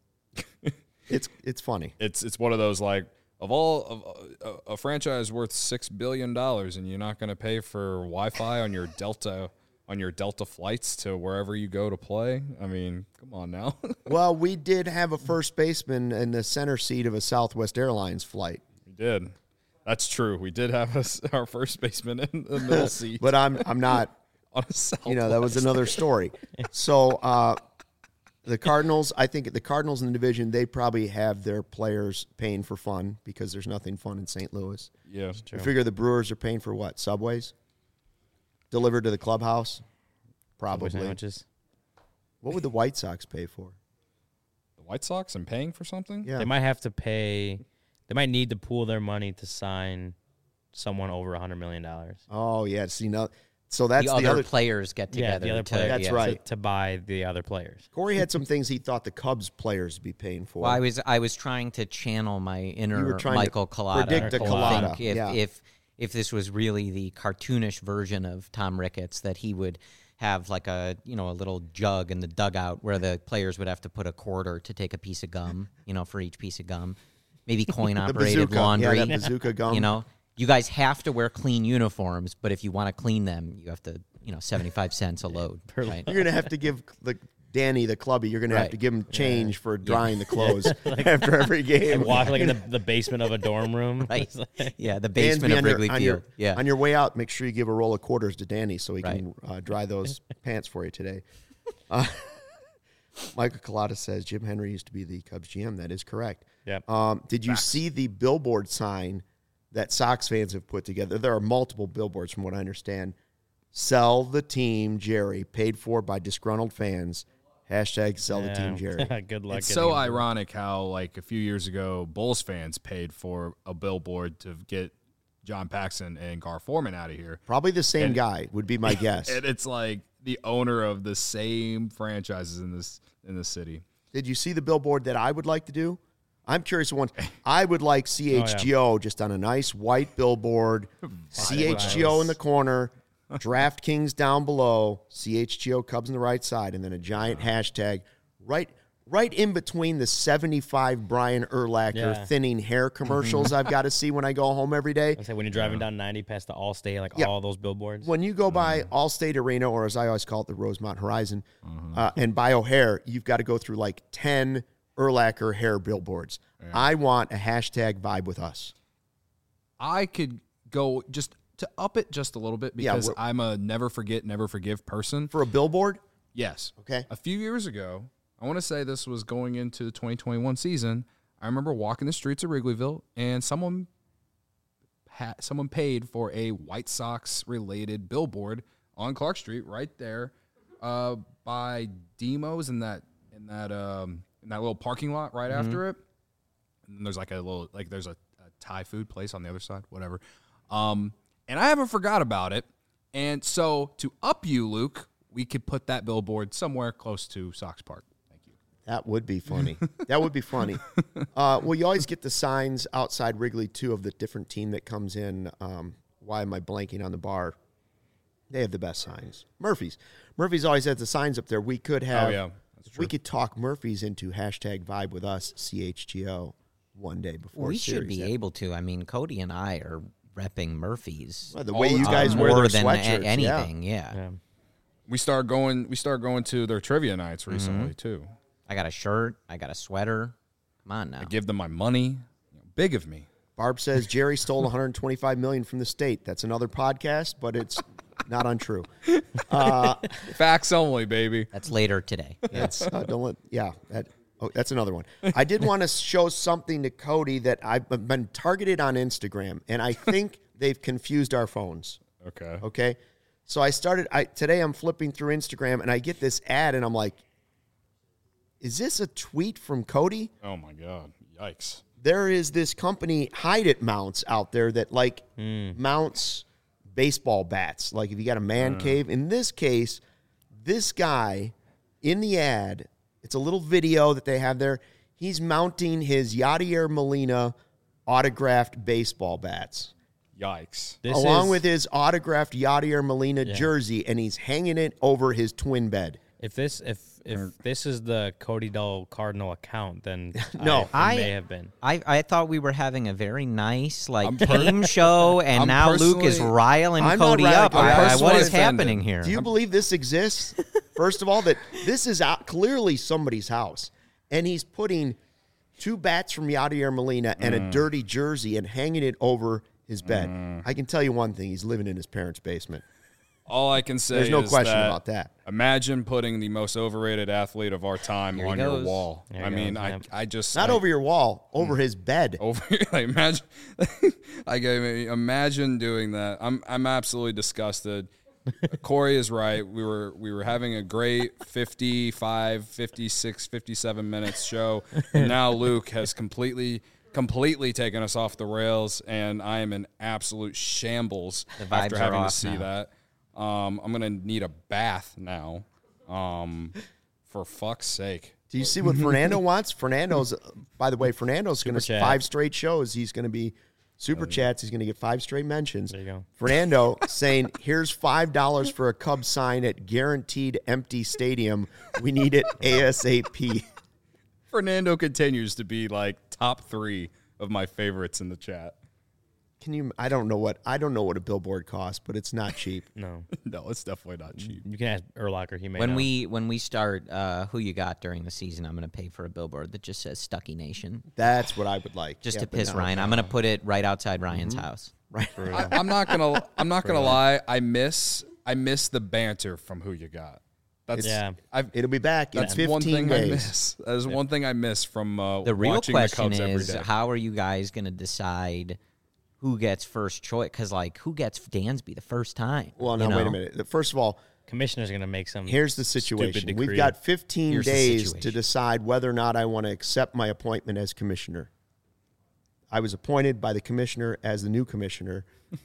It's it's funny. it's it's one of those like of all of a, a franchise worth six billion dollars, and you're not going to pay for Wi-Fi on your Delta on your Delta flights to wherever you go to play. I mean, come on now. Well, we did have a first baseman in the center seat of a Southwest Airlines flight, We did. That's true. We did have us, our first baseman in the middle seat but I'm I'm not. on a Southwest. You know, that was another story. So uh, the Cardinals, I think the Cardinals in the division, they probably have their players paying for fun because there's nothing fun in Saint Louis. Yeah. I figure the Brewers are paying for what? Subways? Delivered to the clubhouse? Subway Probably. sandwiches. What would the White Sox pay for? The White Sox and paying for something? Yeah. They might have to pay. They might need to pool their money to sign someone over a hundred million dollars. Oh, yeah. See, no. So that's the, the, other, other. players get Yeah, together. the other to, players. That's yeah. right. To, to buy the other players. Corey had some things he thought the Cubs players would be paying for. Well, I was I was trying to channel my inner You were trying to Michael Collada. predict a to Collada, think if, yeah. if if this was really the cartoonish version of Tom Ricketts, that he would have like a you know a little jug in the dugout where the players would have to put a quarter to take a piece of gum, you know, for each piece of gum. Maybe coin the operated bazooka. laundry. Yeah, that bazooka gum. You know, you guys have to wear clean uniforms, but if you want to clean them, you have to, you know, seventy-five cents a load. Right? You're going to have to give the Danny, the clubby, you're going to have Right. to give him change for drying the clothes after every game. And walk like in the, the basement of a dorm room. Right. It's like- Yeah, the And basement be of on your- Wrigley on Field. your, Yeah. On your way out, make sure you give a roll of quarters to Danny so he Right. can uh, dry those pants for you today. Uh, Michael Collada says Jim Henry used to be the Cubs G M. That is correct. Yep. Um, did you Facts. see the billboard sign that Sox fans have put together? There are multiple billboards, from what I understand. Sell the team, Jerry. Paid for by disgruntled fans. Hashtag sell the team, Jerry. Good luck. It's getting so it. ironic how, like, a few years ago, Bulls fans paid for a billboard to get John Paxson and Gar Forman out of here. Probably the same And- guy would be my guess. And it's like the owner of the same franchises in this in the city. Did you see the billboard that I would like to do? I'm curious one. I would like C H G O just on a nice white billboard, C H G O in the corner, DraftKings down below, C H G O Cubs on the right side, and then a giant hashtag right right in between the seventy-five Brian Urlacher Yeah. thinning hair commercials I've got to see when I go home every day. I say when you're driving down ninety past the Allstate, like Yeah. all those billboards. When you go by Allstate Arena, or as I always call it, the Rosemont Horizon, uh, and buy O'Hare, you've got to go through like ten Urlacher hair billboards. I want a hashtag vibe with us. I could go just to up it just a little bit Yeah, because we're- I'm a never forget, never forgive person. For a billboard? Yes. Okay. A few years ago, I want to say this was going into the twenty twenty-one season. I remember walking the streets of Wrigleyville, and someone ha- someone paid for a White Sox related billboard on Clark Street, right there, uh, by Demo's in that in that um, in that little parking lot right after it. And then there's like a little like there's a, a Thai food place on the other side, whatever. Um, and I haven't forgot about it. And so to up you, Luke, we could put that billboard somewhere close to Sox Park. Thank you. That would be funny. That would be funny. Uh, well, you always get the signs outside Wrigley, too, of the different team that comes in. Um, why am I blanking on the bar? They have the best signs. Murphy's. Murphy's always has the signs up there. We could have, Oh, yeah. That's true. we could talk Murphy's into hashtag vibe with us, C H G O, one day before we a should series. be That- able to. I mean, Cody and I are repping Murphy's. Well, the all way the you time. guys uh, wear more their than a- sweatshirts. yeah. anything. Yeah. Yeah. We start going we start going to their trivia nights Mm-hmm. recently too. I got a shirt. I got a sweater. Come on now. I give them my money. You know, big of me. Barb says Jerry stole one hundred twenty-five million dollars from the state. That's another podcast, but it's not untrue. Facts only, baby. That's later today. That's uh, don't let, yeah. That, oh, that's another one. I did want to show something to Cody that I've been targeted on Instagram, and I think they've confused our phones. Okay. Okay, so I started. I today I'm flipping through Instagram, and I get this ad, and I'm like, "Is this a tweet from Cody?" Oh my god. Yikes. There is this company, Hide It Mounts, out there that like mounts baseball bats. Like if you got a man cave. In this case, this guy in the ad, It's a little video that they have there. He's mounting his Yadier Molina autographed baseball bats. Yikes. This along is, with his autographed Yadier Molina Yeah. jersey, and he's hanging it over his twin bed. if this if if this is the Cody Dull Cardinal account, then No. I, I- it may have been. I, I thought we were having a very nice like I'm per- game show, and I'm now Luke is personally- riling I'm not Cody riling up. Cody. I- I'm I- what personally is offended. happening here? Do you believe this exists? First of all, that this is out, clearly somebody's house, and he's putting two bats from Yadier Molina and Mm. a dirty jersey and hanging it over his bed. I can tell you one thing: he's living in his parents' basement. All I can say There's no is question that about that. Imagine putting the most overrated athlete of our time Here he on your goes. wall. There he I mean, goes, I yep. I just Not like, over your wall, over his bed. over like imagine like I mean, imagine doing that. I'm I'm absolutely disgusted. Corey is right. We were we were having a great fifty-five, fifty-six, fifty-seven minutes show, and now Luke has completely completely taken us off the rails, and I am in absolute shambles The vibes after are having to off see now. that. Um, I'm gonna need a bath now. Um, for fuck's sake. Do you see what Fernando wants? Fernando's, by the way, Fernando's going to Chat. five straight shows. He's going to be super chats. He's going to get five straight mentions. There you go. Fernando saying, "Here's five dollars for a Cubs sign at guaranteed empty stadium. We need it ASAP." Fernando continues to be like top three of my favorites in the chat. Can you? I don't know what I don't know what a billboard costs, but it's not cheap. No, No, it's definitely not cheap. you can ask Urlacher. He may When know. we when we start, uh, who you got during the season? I'm going to pay for a billboard that just says Stucky Nation, That's what I would like. just Yeah, to but piss no. Ryan. I'm going to put it right outside Ryan's house. Right. I, I'm not gonna. I'm not gonna lie. I miss. I miss the banter from Who You Got. That's Yeah. I've, It'll be back in that's one fifteen thing I days. miss. That is one thing I miss from uh, The real watching question the Cubs every is, day. how are you guys going to decide who gets first choice? Because like, who gets Dansby the first time? Well, you no, wait a know? minute. First of all, Commissioner's going to make some. here's the stupid situation. We've decree. got fifteen Here's the days to situation. decide whether or not I want to accept my appointment as commissioner. I was appointed by the commissioner as the new commissioner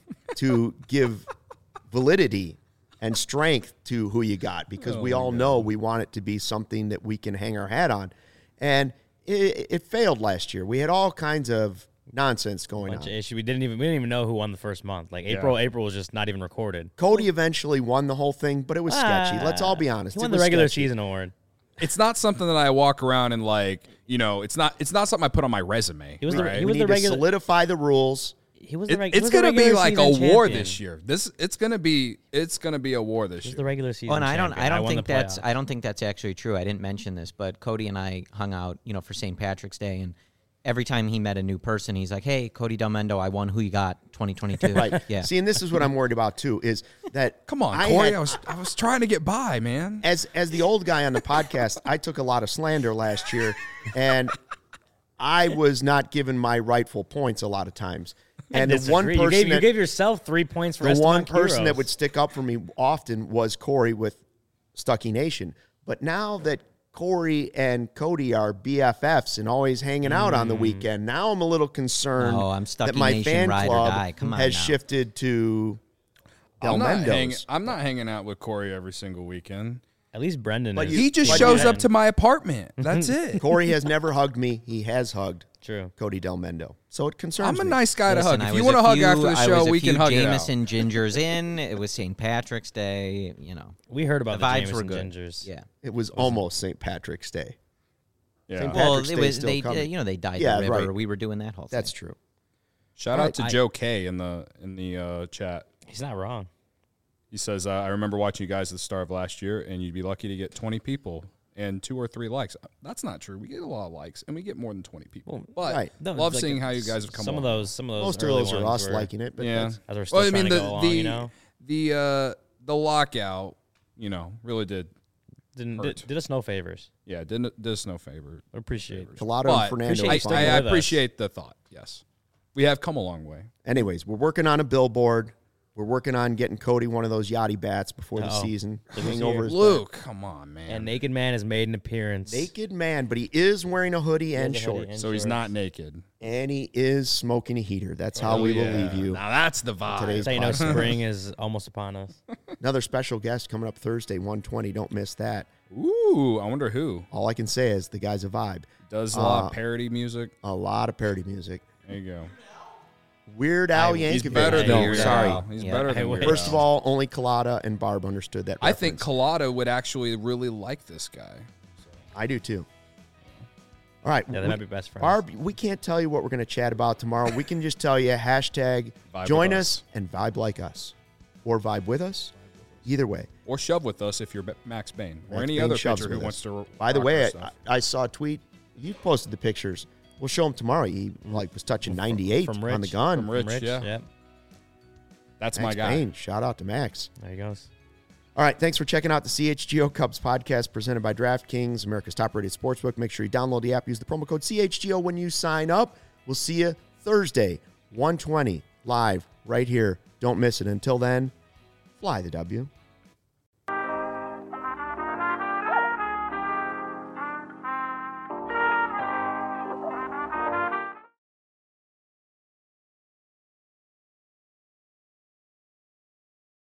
to give validity and strength to Who You Got, because Oh we my all God. know we want it to be something that we can hang our hat on. And it, it failed last year. We had all kinds of nonsense going bunch on. of issue. We didn't even we didn't even know who won the first month. Like April, April was just not even recorded. Cody eventually won the whole thing, but it was sketchy. Let's all be Ah, honest. He It won the was regular sketchy. season award. It's not something that I walk around and like. You know, it's not. It's not something I put on my resume. He was the- right? he We was need the to regular- solidify the rules. He was the It- reg- he it's was the gonna be regular like a season war champion. this year. This it's gonna be. It's gonna be a war this He was year. the regular season. Oh, and I don't, champion. I don't won think the that's, playoff. I don't think that's actually true. I didn't mention this, but Cody and I hung out, you know, for Saint Patrick's Day, and every time he met a new person, he's like, "Hey, Cody Delmendo, I won Who You Got twenty twenty-two." Right. Yeah. See, and this is what I'm worried about too, is that Come on, I Corey. had- I was. I was trying to get by, man. as as the old guy on the podcast, I took a lot of slander last year, and I was not given my rightful points a lot of times. And the one Disagree. person you gave, you that, gave yourself three points for the one Esteban person that Quiroz. would stick up for me often was Corey with Stucky Nation. But now that Corey and Cody are B F Fs and always hanging out on the weekend, now I'm a little concerned Oh, I'm Stucky that my Nation fan ride or club die. Come on has now. shifted to Del I'm not, hang, Mendo's. I'm not hanging out with Corey every single weekend. At least Brendan. But is. you- He just but shows you- up to my apartment. That's it. Corey has never hugged me. He has hugged True. Cody Del Mendo. So it concerns I'm a me. nice guy to Listen, hug. I If you was want to a hug few- after the I show, was a we few can hug Jameson gingers in. It was Saint Patrick's Day. You know, We heard about The the, vibes were Jameson good. Gingers. yeah. It was almost Saint Patrick's Day. it out. Yeah. Saint Well, Patrick's it Day was still they, coming. you know, they dyed Yeah, the river. right. We were doing that whole thing. That's true. Shout All out right, to I- Joe K in the in the uh, chat. He's not wrong. He says, uh, "I remember watching you guys at the start of last year, and you'd be lucky to get twenty people and two or three likes." That's not true. We get a lot of likes, and we get more than twenty people. But right. No, love like, seeing how you guys have come. Some along. of those, some of those. Most of early those are ones us were, liking it, but Yeah. that's, As we're still Well, I trying mean to the go along, the you know, the uh, the lockout, you know, really did. didn't hurt. did, did us no favors. Yeah, didn't did us no favor. I appreciate it. Collado But and Fernando. appreciate I, you are sticking fine. I, I with us. appreciate the thought. Yes, we have come a long way. Anyways, we're working on a billboard. We're working on getting Cody one of those Yachty bats before the Uh-oh. season. Look Hang who's over here. his Luke, come on, man. And Naked Man has made an appearance. naked man, but he is wearing a hoodie and has a hoodie shorts. and so he's shorts. not naked. And he is smoking a heater. That's how Oh, we yeah. will leave you. Now that's the vibe. Today's So you know, podcast. spring is almost upon us. Another special guest coming up Thursday, one twenty. Don't miss that. Ooh, I wonder who. All I can say is the guy's a vibe. Does a lot Uh, of parody music. A lot of parody music. There you go. Weird Al I- Yankovic. He's better than No, Weird sorry. Al. He's Yeah. better I than wish. Weird First Al. of all, only Collada and Barb understood that I think reference. Collada would actually really like this guy. I do too. All right. Yeah, they we- might be best friends. Barb, we can't tell you what we're going to chat about tomorrow. We can just tell you hashtag Vibe join with us us. and vibe like us. Or vibe with us. Either way. Or shove with us if you're Be- Max Bain. Or Max any Bain other shoves pitcher who with wants us. to. By the rock way, our I, stuff. I saw a tweet. You posted the pictures. We'll show him tomorrow. He like was touching ninety-eight from on the Rich. gun. From Rich, Rich, yeah. Yep. That's Max my guy. Bain. Shout out to Max. There he goes. All right, thanks for checking out the C H G O Cubs podcast presented by DraftKings, America's top-rated sportsbook. Make sure you download the app. Use the promo code C H G O when you sign up. We'll see you Thursday, one twenty, live right here. Don't miss it. Until then, fly the W.